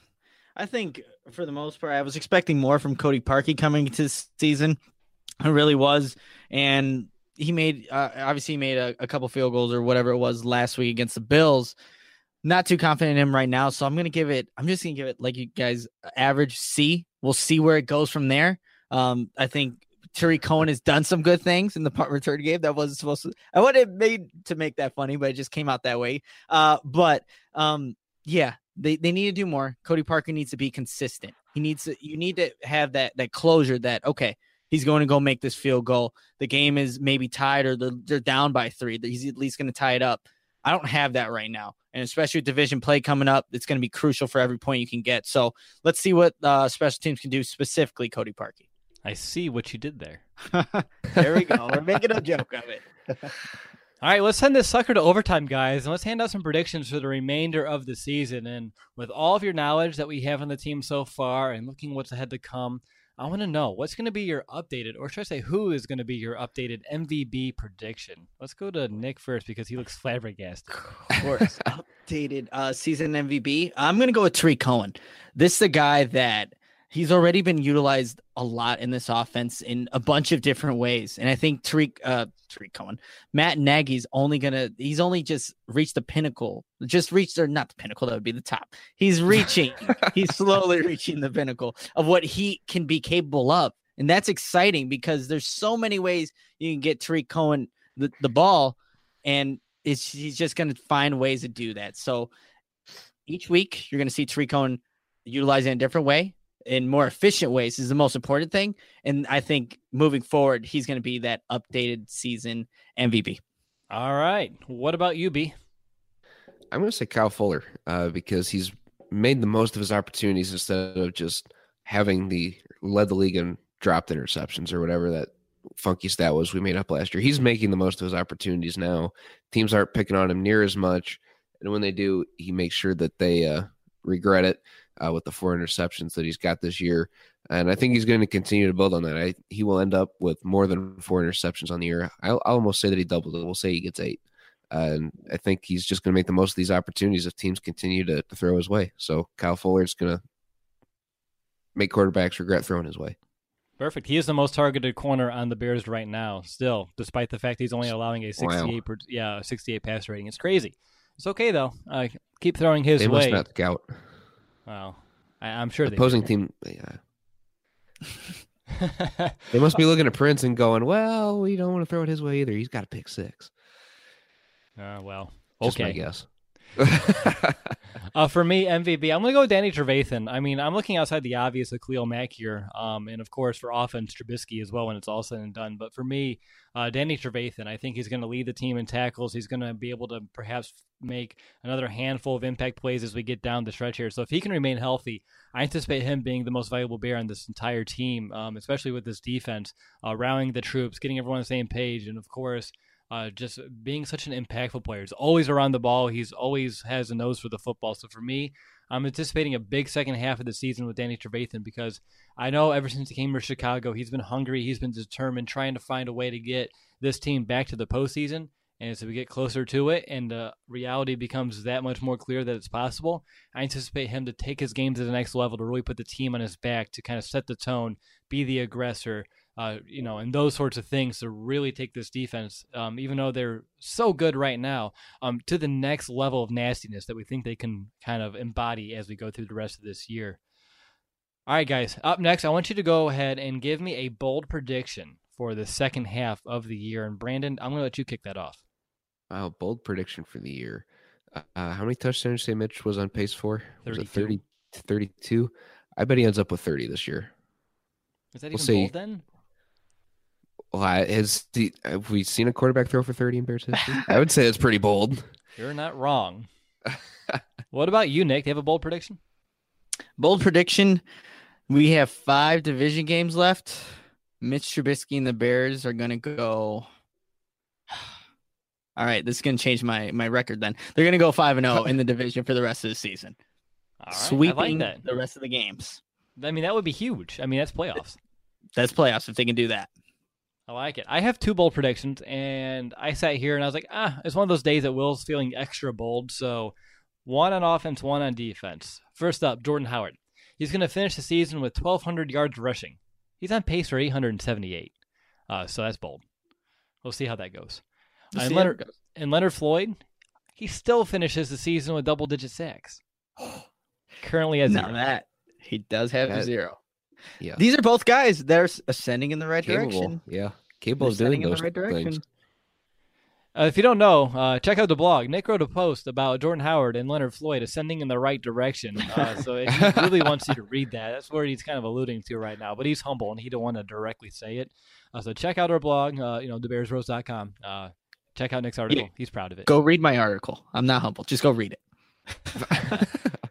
I think for the most part, I was expecting more from Cody Parkey coming into this season. I really was. And he made, uh, obviously, he made a, a couple field goals or whatever it was last week against the Bills. Not too confident in him right now. So I'm going to give it, I'm just going to give it, like you guys, average C. We'll see where it goes from there. Um, I think Tariq Cohen has done some good things in the punt return game. That wasn't supposed to, I would have made to make that funny, but it just came out that way. Uh, but um, yeah, they, they need to do more. Cody Parkey needs to be consistent. He needs to, you need to have that, that closure that, okay, he's going to go make this field goal. The game is maybe tied or they're, they're down by three. He's at least going to tie it up. I don't have that right now. And especially with division play coming up, it's going to be crucial for every point you can get. So let's see what uh, special teams can do, specifically Cody Parkey. I see what you did there. There we go. We're making a joke of it. All right, let's send this sucker to overtime, guys, and let's hand out some predictions for the remainder of the season. And with all of your knowledge that we have on the team so far and looking what's ahead to come, I want to know what's going to be your updated, or should I say who is going to be your updated M V B prediction? Let's go to Nick first because he looks flabbergasted. Of course. Updated uh, season M V B. I'm going to go with Tariq Cohen. This is the guy that he's already been utilized a lot in this offense in a bunch of different ways. And I think Tariq, uh, Tariq Cohen, Matt Nagy's only going to, he's only just reached the pinnacle, just reached, or not the pinnacle, that would be the top. He's reaching, he's slowly reaching the pinnacle of what he can be capable of. And that's exciting because there's so many ways you can get Tariq Cohen the, the ball, and it's, he's just going to find ways to do that. So each week you're going to see Tariq Cohen utilize it in a different way, in more efficient ways is the most important thing. And I think moving forward, he's going to be that updated season M V P. All right. What about you, B? I'm going to say Kyle Fuller uh, because he's made the most of his opportunities instead of just having the led the league in dropped interceptions or whatever that funky stat was we made up last year. He's making the most of his opportunities now. Teams aren't picking on him near as much. And when they do, he makes sure that they uh, regret it. Uh, with the four interceptions that he's got this year. And I think he's going to continue to build on that. I, he will end up with more than four interceptions on the year. I'll, I'll almost say that he doubled it. We'll say he gets eight. Uh, and I think he's just going to make the most of these opportunities if teams continue to, to throw his way. So Kyle Fuller is going to make quarterbacks regret throwing his way. Perfect. He is the most targeted corner on the Bears right now, still, despite the fact he's only allowing a sixty-eight, wow. per, yeah, sixty-eight pass rating. It's crazy. It's okay, though. Uh, keep throwing his they way. They must not scout. Wow. I, I'm sure opposing they team. Yeah. They must be looking at Prince and going, well, we don't want to throw it his way either. He's got a pick six. Uh, well, okay. Just my guess. uh, for me, M V B, I'm going to go with Danny Trevathan. I mean, I'm looking outside the obvious of Khalil Mack here. Um, and, of course, for offense, Trubisky as well when it's all said and done. But for me, uh, Danny Trevathan, I think he's going to lead the team in tackles. He's going to be able to perhaps make another handful of impact plays as we get down the stretch here. So if he can remain healthy, I anticipate him being the most valuable Bear on this entire team, um, especially with this defense, uh, rallying the troops, getting everyone on the same page, and, of course, Uh, just being such an impactful player. He's always around the ball. He's always has a nose for the football. So for me, I'm anticipating a big second half of the season with Danny Trevathan because I know ever since he came to Chicago, he's been hungry. He's been determined, trying to find a way to get this team back to the postseason. And as we get closer to it and uh, reality becomes that much more clear that it's possible, I anticipate him to take his game to the next level, to really put the team on his back, to kind of set the tone, be the aggressor, Uh, you know, and those sorts of things to really take this defense, um, even though they're so good right now, um, to the next level of nastiness that we think they can kind of embody as we go through the rest of this year. All right, guys, up next, I want you to go ahead and give me a bold prediction for the second half of the year. And Brandon, I'm going to let you kick that off. Wow, bold prediction for the year. Uh, how many touchdowns did you say Mitch was on pace for? Was it thirty, thirty-two? I bet he ends up with thirty this year. Is that even we'll bold then? Well, has the, have we seen a quarterback throw for thirty in Bears history? I would say it's pretty bold. You're not wrong. What about you, Nick? Do you have a bold prediction? Bold prediction. We have five division games left. Mitch Trubisky and the Bears are going to go. All right, this is going to change my my record then. They're going to go five and oh in the division for the rest of the season. All right, Sweeping I like that. the rest of the games. I mean, that would be huge. I mean, that's playoffs. That's playoffs if they can do that. I like it. I have two bold predictions, and I sat here and I was like, ah, it's one of those days that Will's feeling extra bold. So one on offense, one on defense. First up, Jordan Howard. He's going to finish the season with twelve hundred yards rushing. He's on pace for eight hundred seventy-eight. Uh, so that's bold. We'll see how that goes. We'll and, see Leonard, how it goes. and Leonard Floyd, he still finishes the season with double-digit sacks. Currently at zero. Now that he does have a That- zero. Yeah. These are both guys that are ascending in the right Capable. direction. Yeah. Capable They're of doing ascending in those the right direction. things. Uh, if you don't know, uh, check out the blog. Nick wrote a post about Jordan Howard and Leonard Floyd ascending in the right direction. Uh, so if he really wants you to read that. That's where he's kind of alluding to right now. But he's humble, and he don't want to directly say it. Uh, so check out our blog, uh, you know, the bears rose dot com. Uh, check out Nick's article. Yeah. He's proud of it. Go read my article. I'm not humble. Just go read it.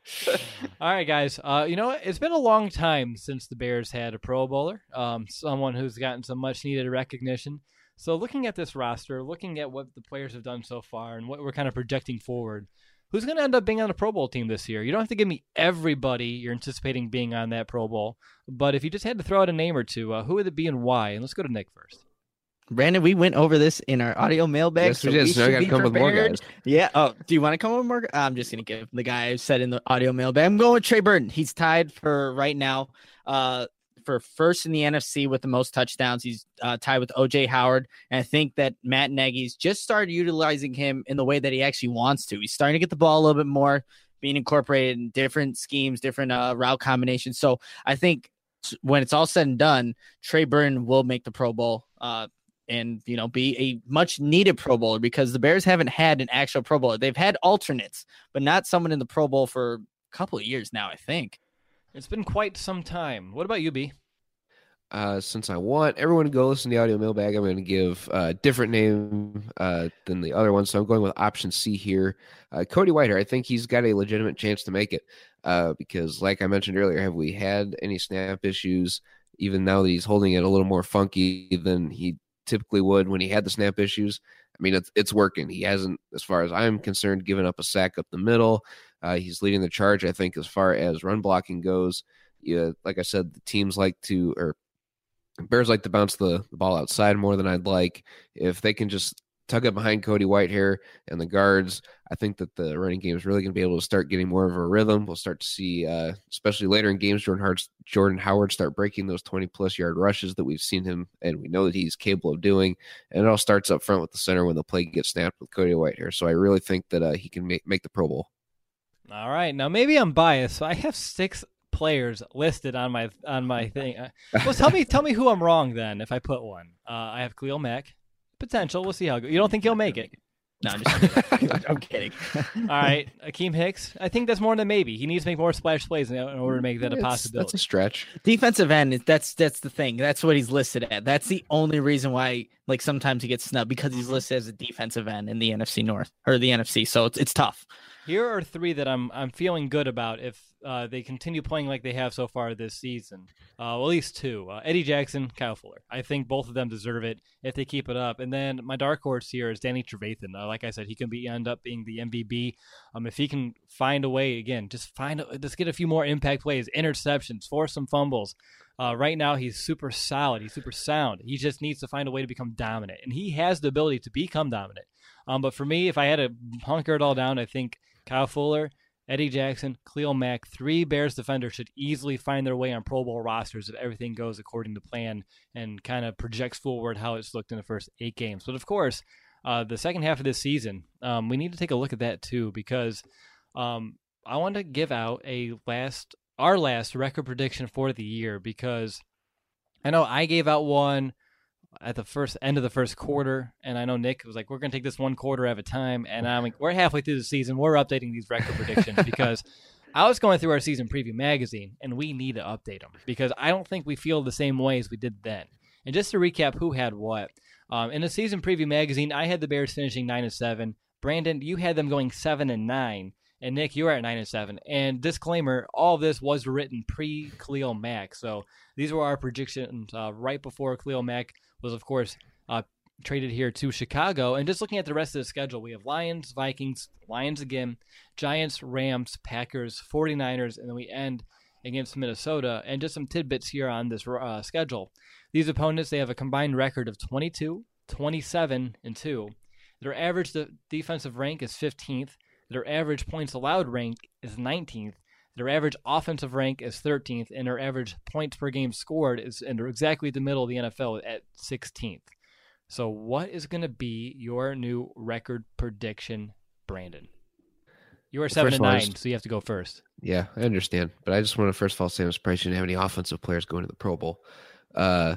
All right, guys. Uh, you know what? It's been a long time since the Bears had a Pro Bowler, um, someone who's gotten some much-needed recognition. So looking at this roster, looking at what the players have done so far and what we're kind of projecting forward, who's going to end up being on a Pro Bowl team this year? You don't have to give me everybody you're anticipating being on that Pro Bowl, but if you just had to throw out a name or two, uh, who would it be and why? And let's go to Nick first. Brandon, we went over this in our audio mailbag. Yes, we so did. we So I should gotta be come with more prepared. guys. Yeah. Oh, do you want to come with more? I'm just going to give the guy who said in the audio mailbag. I'm going with Trey Burton. He's tied for right now uh, for first in the N F C with the most touchdowns. He's uh, tied with O J Howard. And I think that Matt Nagy's just started utilizing him in the way that he actually wants to. He's starting to get the ball a little bit more, being incorporated in different schemes, different uh, route combinations. So I think when it's all said and done, Trey Burton will make the Pro Bowl. Uh, and, you know, be a much needed Pro Bowler because the Bears haven't had an actual Pro Bowler. They've had alternates, but not someone in the Pro Bowl for a couple of years now, I think. It's been quite some time. What about you, B? Uh, since I want everyone to go listen to the audio mailbag, I'm going to give a different name uh, than the other one. So I'm going with option C here. Uh, Cody Whitehair. I think he's got a legitimate chance to make it uh, because, like I mentioned earlier, have we had any snap issues? Even now that he's holding it a little more funky than he typically would when he had the snap issues. I mean, it's it's working. He hasn't, as far as I'm concerned, given up a sack up the middle. Uh, he's leading the charge, I think, as far as run blocking goes. Yeah, like I said, the teams like to, or Bears like to bounce the, the ball outside more than I'd like. If they can just tug it behind Cody Whitehair and the guards, I think that the running game is really going to be able to start getting more of a rhythm. We'll start to see, uh, especially later in games, Jordan Howard, Jordan Howard start breaking those twenty-plus yard rushes that we've seen him, and we know that he's capable of doing. And it all starts up front with the center when the play gets snapped with Cody Whitehair. So I really think that uh, he can make, make the Pro Bowl. All right. Now, maybe I'm biased, so I have six players listed on my on my thing. Uh, well, tell me tell me who I'm wrong then if I put one. Uh, I have Khalil Mack. Potential. We'll see how it goes. You don't think he'll make it? No, I'm just kidding. I'm kidding. All right. Akeem Hicks. I think that's more than maybe. He needs to make more splash plays in order to make that a That's- possibility. That's a stretch. Defensive end, that's that's the thing. That's what he's listed at. That's the only reason why, like, sometimes he gets snubbed because he's listed as a defensive end in the N F C North or the N F C. So it's it's tough. Here are three that I'm I'm feeling good about if uh, they continue playing like they have so far this season. Uh, well, at least two. Uh, Eddie Jackson, Kyle Fuller. I think both of them deserve it if they keep it up. And then my dark horse here is Danny Trevathan. Uh, like I said, he can be end up being the M V B. Um, if he can find a way, again, just find a, just get a few more impact plays, interceptions, force some fumbles. Uh, right now, he's super solid. He's super sound. He just needs to find a way to become dominant. And he has the ability to become dominant. Um, but for me, if I had to hunker it all down, I think Kyle Fuller, Eddie Jackson, Khalil Mack, three Bears defenders should easily find their way on Pro Bowl rosters if everything goes according to plan and kind of projects forward how it's looked in the first eight games. But of course, uh, the second half of this season, um, we need to take a look at that too because um, I want to give out a last, our last record prediction for the year because I know I gave out one at the first end of the first quarter, and I know Nick was like, we're going to take this one quarter at a time, and I'm like, we're halfway through the season. We're updating these record predictions because I was going through our season preview magazine, and we need to update them because I don't think we feel the same way as we did then. And just to recap who had what, um, in the season preview magazine, I had the Bears finishing nine and seven. Brandon, you had them going seven and nine, And Nick, you are at nine and seven. And disclaimer: all of this was written pre Khalil Mack, so these were our predictions uh, right before Khalil Mack was, of course, uh, traded here to Chicago. And just looking at the rest of the schedule, we have Lions, Vikings, Lions again, Giants, Rams, Packers, 49ers, and then we end against Minnesota. And just some tidbits here on this uh, schedule. These opponents, they have a combined record of twenty-two, twenty-seven, and two. Their average de- defensive rank is fifteenth. Their average points allowed rank is nineteenth. Their average offensive rank is thirteenth. And their average points per game scored is in exactly the middle of the N F L at sixteenth. So what is going to be your new record prediction, Brandon? You are seven and nine, so you have to go first. Yeah, I understand. But I just want to first of all say I'm surprised you didn't have any offensive players going to the Pro Bowl. Uh,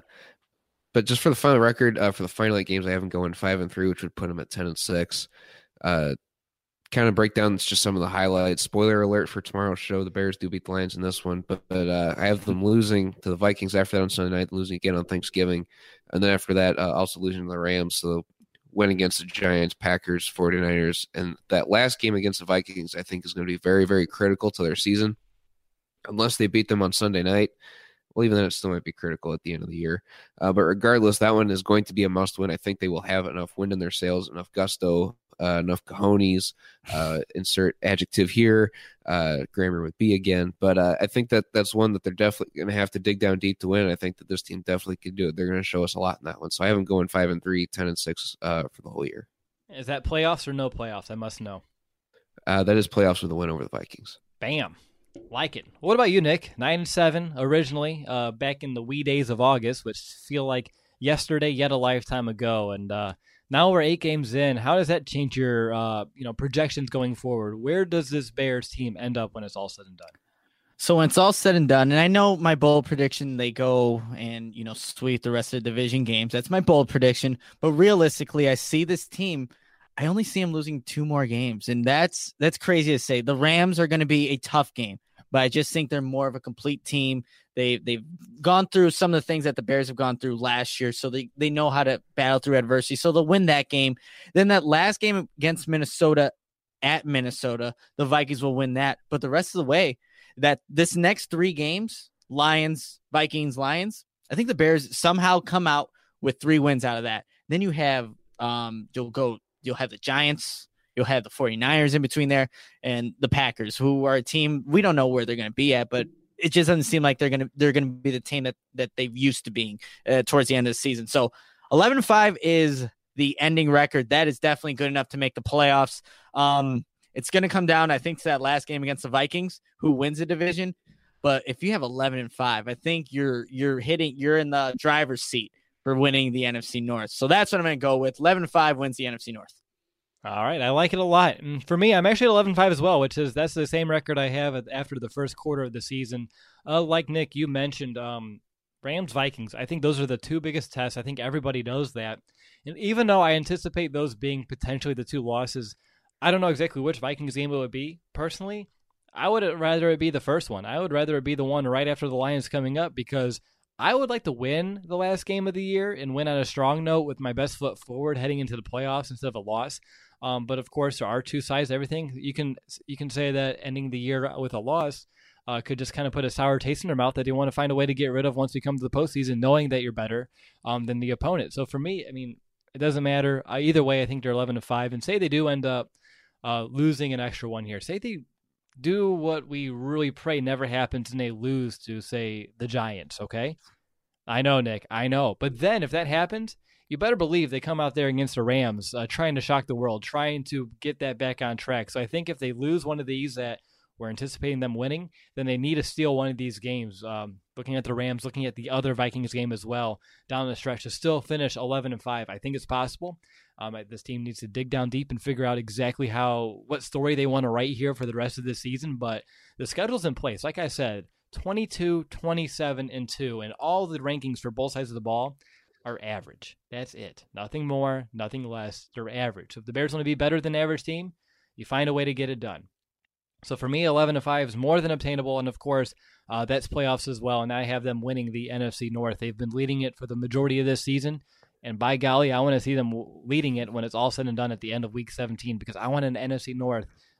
but just for the final record, uh, for the final eight games, I have them going five and three, which would put them at ten and six. Uh, kind of break down just some of the highlights. Spoiler alert for tomorrow's show: the Bears do beat the Lions in this one, but, but uh, I have them losing to the Vikings after that on Sunday night, losing again on Thanksgiving, and then after that, uh, also losing to the Rams. So win against the Giants, Packers, 49ers, and that last game against the Vikings, I think, is going to be very, very critical to their season. Unless they beat them on Sunday night, well, even then, it still might be critical at the end of the year. Uh, but regardless, that one is going to be a must-win. I think they will have enough wind in their sails, enough gusto, uh, enough cojones, uh, insert adjective here, uh, grammar with B again. But uh, I think that that's one that they're definitely going to have to dig down deep to win. And I think that this team definitely can do it. They're going to show us a lot in that one. So I have them going five and three, ten and six uh, for the whole year. Is that playoffs or no playoffs? I must know. Uh, that is playoffs with a win over the Vikings. Bam. Like it. What about you, Nick? Nine and seven originally, uh, back in the wee days of August, which feel like yesterday, yet a lifetime ago. And uh, now we're eight games in. How does that change your, uh, you know, projections going forward? Where does this Bears team end up when it's all said and done? So when it's all said and done, and I know my bold prediction, they go and, you know, sweep the rest of the division games. That's my bold prediction. But realistically, I see this team. I only see them losing two more games, and that's that's crazy to say. The Rams are going to be a tough game, but I just think they're more of a complete team. They they've gone through some of the things that the Bears have gone through last year, so they they know how to battle through adversity. So they'll win that game. Then that last game against Minnesota at Minnesota, the Vikings will win that. But the rest of the way, that this next three games, Lions, Vikings, Lions, I think the Bears somehow come out with three wins out of that. Then you have um you'll go. You'll have the Giants, you'll have the 49ers in between there, and the Packers, who are a team we don't know where they're going to be at, but it just doesn't seem like they're going to they're going to be the team that that they've used to being uh, towards the end of the season. So eleven and five is the ending record. That is definitely good enough to make the playoffs. Um, it's going to come down, I think, to that last game against the Vikings, who wins the division. But if you have eleven and five, I think you're you're hitting you're in the driver's seat for winning the N F C North. So that's what I'm going to go with. eleven and five wins the N F C North. All right, I like it a lot. And for me, I'm actually at eleven and five as well, which is that's the same record I have after the first quarter of the season. Uh, like Nick, you mentioned um, Rams, Vikings. I think those are the two biggest tests. I think everybody knows that. And even though I anticipate those being potentially the two losses, I don't know exactly which Vikings game it would be. Personally, I would rather it be the first one. I would rather it be the one right after the Lions coming up, because I would like to win the last game of the year and win on a strong note with my best foot forward heading into the playoffs instead of a loss. Um, but of course, there are two sides to everything. You can you can say that ending the year with a loss uh, could just kind of put a sour taste in their mouth that you want to find a way to get rid of once we come to the postseason, knowing that you're better um, than the opponent. So for me, I mean, it doesn't matter. Uh, either way, I think they're eleven to five. And say they do end up uh, losing an extra one here. Say they do what we really pray never happens and they lose to, say, the Giants, okay? I know, Nick, I know. But then if that happens, you better believe they come out there against the Rams uh, trying to shock the world, trying to get that back on track. So I think if they lose one of these that we're anticipating them winning, then they need to steal one of these games. Um, looking at the Rams, looking at the other Vikings game as well, down the stretch to still finish eleven and five. I think it's possible. Um, this team needs to dig down deep and figure out exactly how what story they want to write here for the rest of the season. But the schedule's in place. Like I said, twenty-two, twenty-seven, and two, and all the rankings for both sides of the ball are average. That's it. Nothing more, nothing less. They're average. So if the Bears want to be better than the average team, you find a way to get it done. So for me, eleven to five is more than obtainable, and of course, uh, that's playoffs as well, and I have them winning the N F C North. They've been leading it for the majority of this season, and by golly, I want to see them leading it when it's all said and done at the end of Week seventeen, because I want an N F C North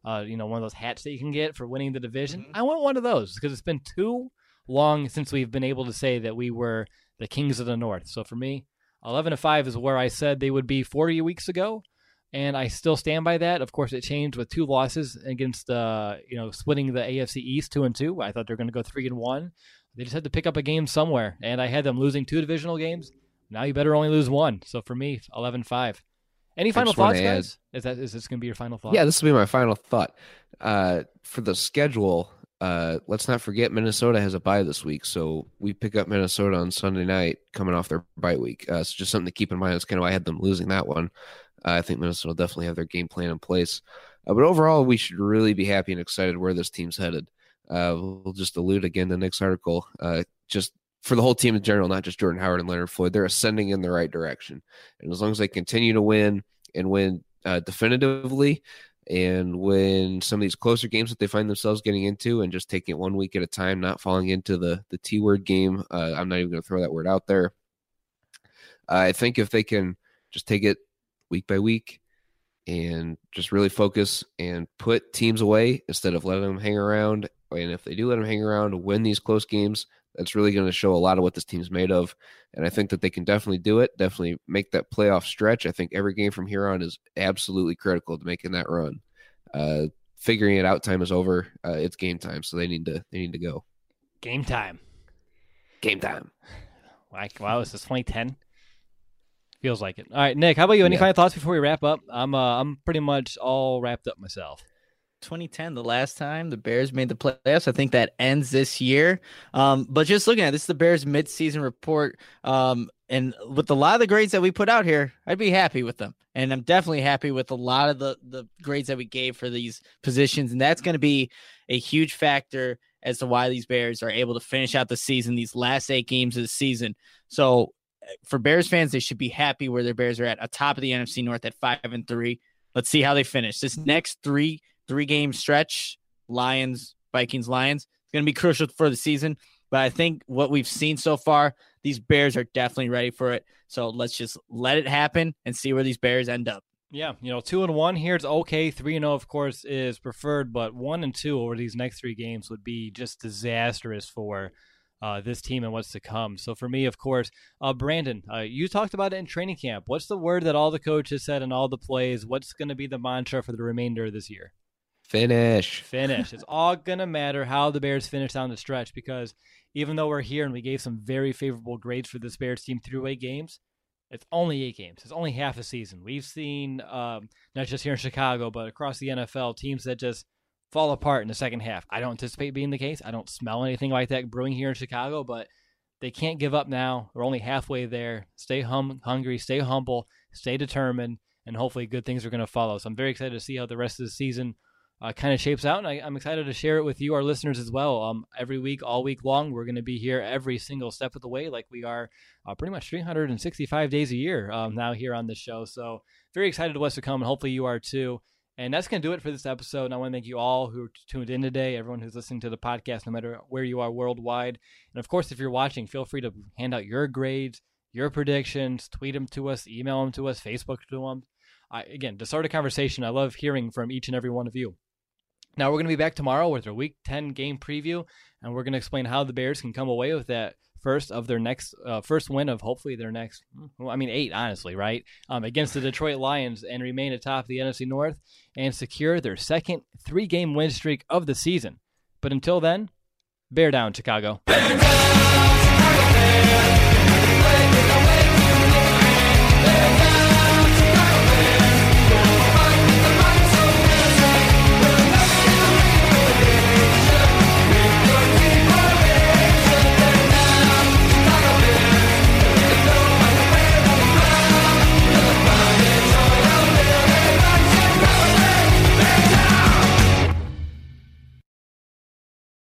uh, you know, one of those hats that you can get for winning the division. Mm-hmm. I want one of those because it's been too long since we've been able to say that we were the Kings of the North. So for me, eleven and five is where I said they would be forty weeks ago, and I still stand by that. Of course, it changed with two losses against, uh, you know, splitting the A F C East two and two. I thought they were going to go three and one. They just had to pick up a game somewhere, and I had them losing two divisional games. Now you better only lose one. So for me, eleven five. Any final thoughts, guys? Is that is this going to be your final thought? Yeah, this will be my final thought. Uh, for the schedule, uh, let's not forget Minnesota has a bye this week, so we pick up Minnesota on Sunday night coming off their bye week. Uh, so just something to keep in mind. That's kind of why I had them losing that one. Uh, I think Minnesota will definitely have their game plan in place. Uh, but overall, we should really be happy and excited where this team's headed. Uh, we'll just allude again to Nick's article. Uh, just for the whole team in general, not just Jordan Howard and Leonard Floyd, they're ascending in the right direction. And as long as they continue to win and win uh, definitively and win some of these closer games that they find themselves getting into and just taking it one week at a time, not falling into the, the T-word game, uh, I'm not even going to throw that word out there. Uh, I think if they can just take it week by week and just really focus and put teams away instead of letting them hang around, and if they do let them hang around, win these close games, that's really going to show a lot of what this team's made of. And I think that they can definitely do it, definitely make that playoff stretch. I think every game from here on is absolutely critical to making that run. Uh, figuring it out time is over. Uh, it's game time, so they need to they need to go. Game time. Game time. Like, wow, is this twenty ten? Feels like it. All right, Nick, how about you? Any Yeah. final thoughts before we wrap up? I'm uh, I'm pretty much all wrapped up myself. twenty ten, the last time the Bears made the playoffs. I think that ends this year. Um, but just looking at this, is the Bears midseason report. Um, and with a lot of the grades that we put out here, I'd be happy with them. And I'm definitely happy with a lot of the, the grades that we gave for these positions. And that's going to be a huge factor as to why these Bears are able to finish out the season, these last eight games of the season. So for Bears fans, they should be happy where their Bears are at, atop of the N F C North at five and three. Let's see how they finish. This next three Three-game stretch, Lions, Vikings, Lions, it's going to be crucial for the season. But I think what we've seen so far, these Bears are definitely ready for it. So let's just let it happen and see where these Bears end up. Yeah, you know, two and one here is okay. Three and zero, of course, is preferred, but one and two over these next three games would be just disastrous for uh, this team and what's to come. So for me, of course, uh, Brandon, uh, you talked about it in training camp. What's the word that all the coaches said in all the plays? What's going to be the mantra for the remainder of this year? Finish. Finish. It's all going to matter how the Bears finish down the stretch, because even though we're here and we gave some very favorable grades for this Bears team through eight games, it's only eight games. It's only half a season. We've seen, um, not just here in Chicago, but across the N F L, teams that just fall apart in the second half. I don't anticipate being the case. I don't smell anything like that brewing here in Chicago, but they can't give up now. We're only halfway there. Stay hum- hungry, stay humble, stay determined, and hopefully good things are going to follow. So I'm very excited to see how the rest of the season Uh, kind of shapes out, and I, I'm excited to share it with you, our listeners, as well. Um, every week, all week long, we're going to be here every single step of the way, like we are uh, pretty much three hundred sixty-five days a year um, now here on this show. So very excited to what's to come, and hopefully you are too. And that's going to do it for this episode. And I want to thank you all who tuned in today, everyone who's listening to the podcast, no matter where you are worldwide. And of course, if you're watching, feel free to hand out your grades, your predictions, tweet them to us, email them to us, Facebook to them. I, again, to start a conversation, I love hearing from each and every one of you. Now, we're going to be back tomorrow with our Week ten game preview, and we're going to explain how the Bears can come away with that first of their next uh, first win of hopefully their next, well, I mean, eight, honestly, right, um, against the Detroit Lions, and remain atop the N F C North and secure their second three-game win streak of the season. But until then, bear down, Chicago. Bear down!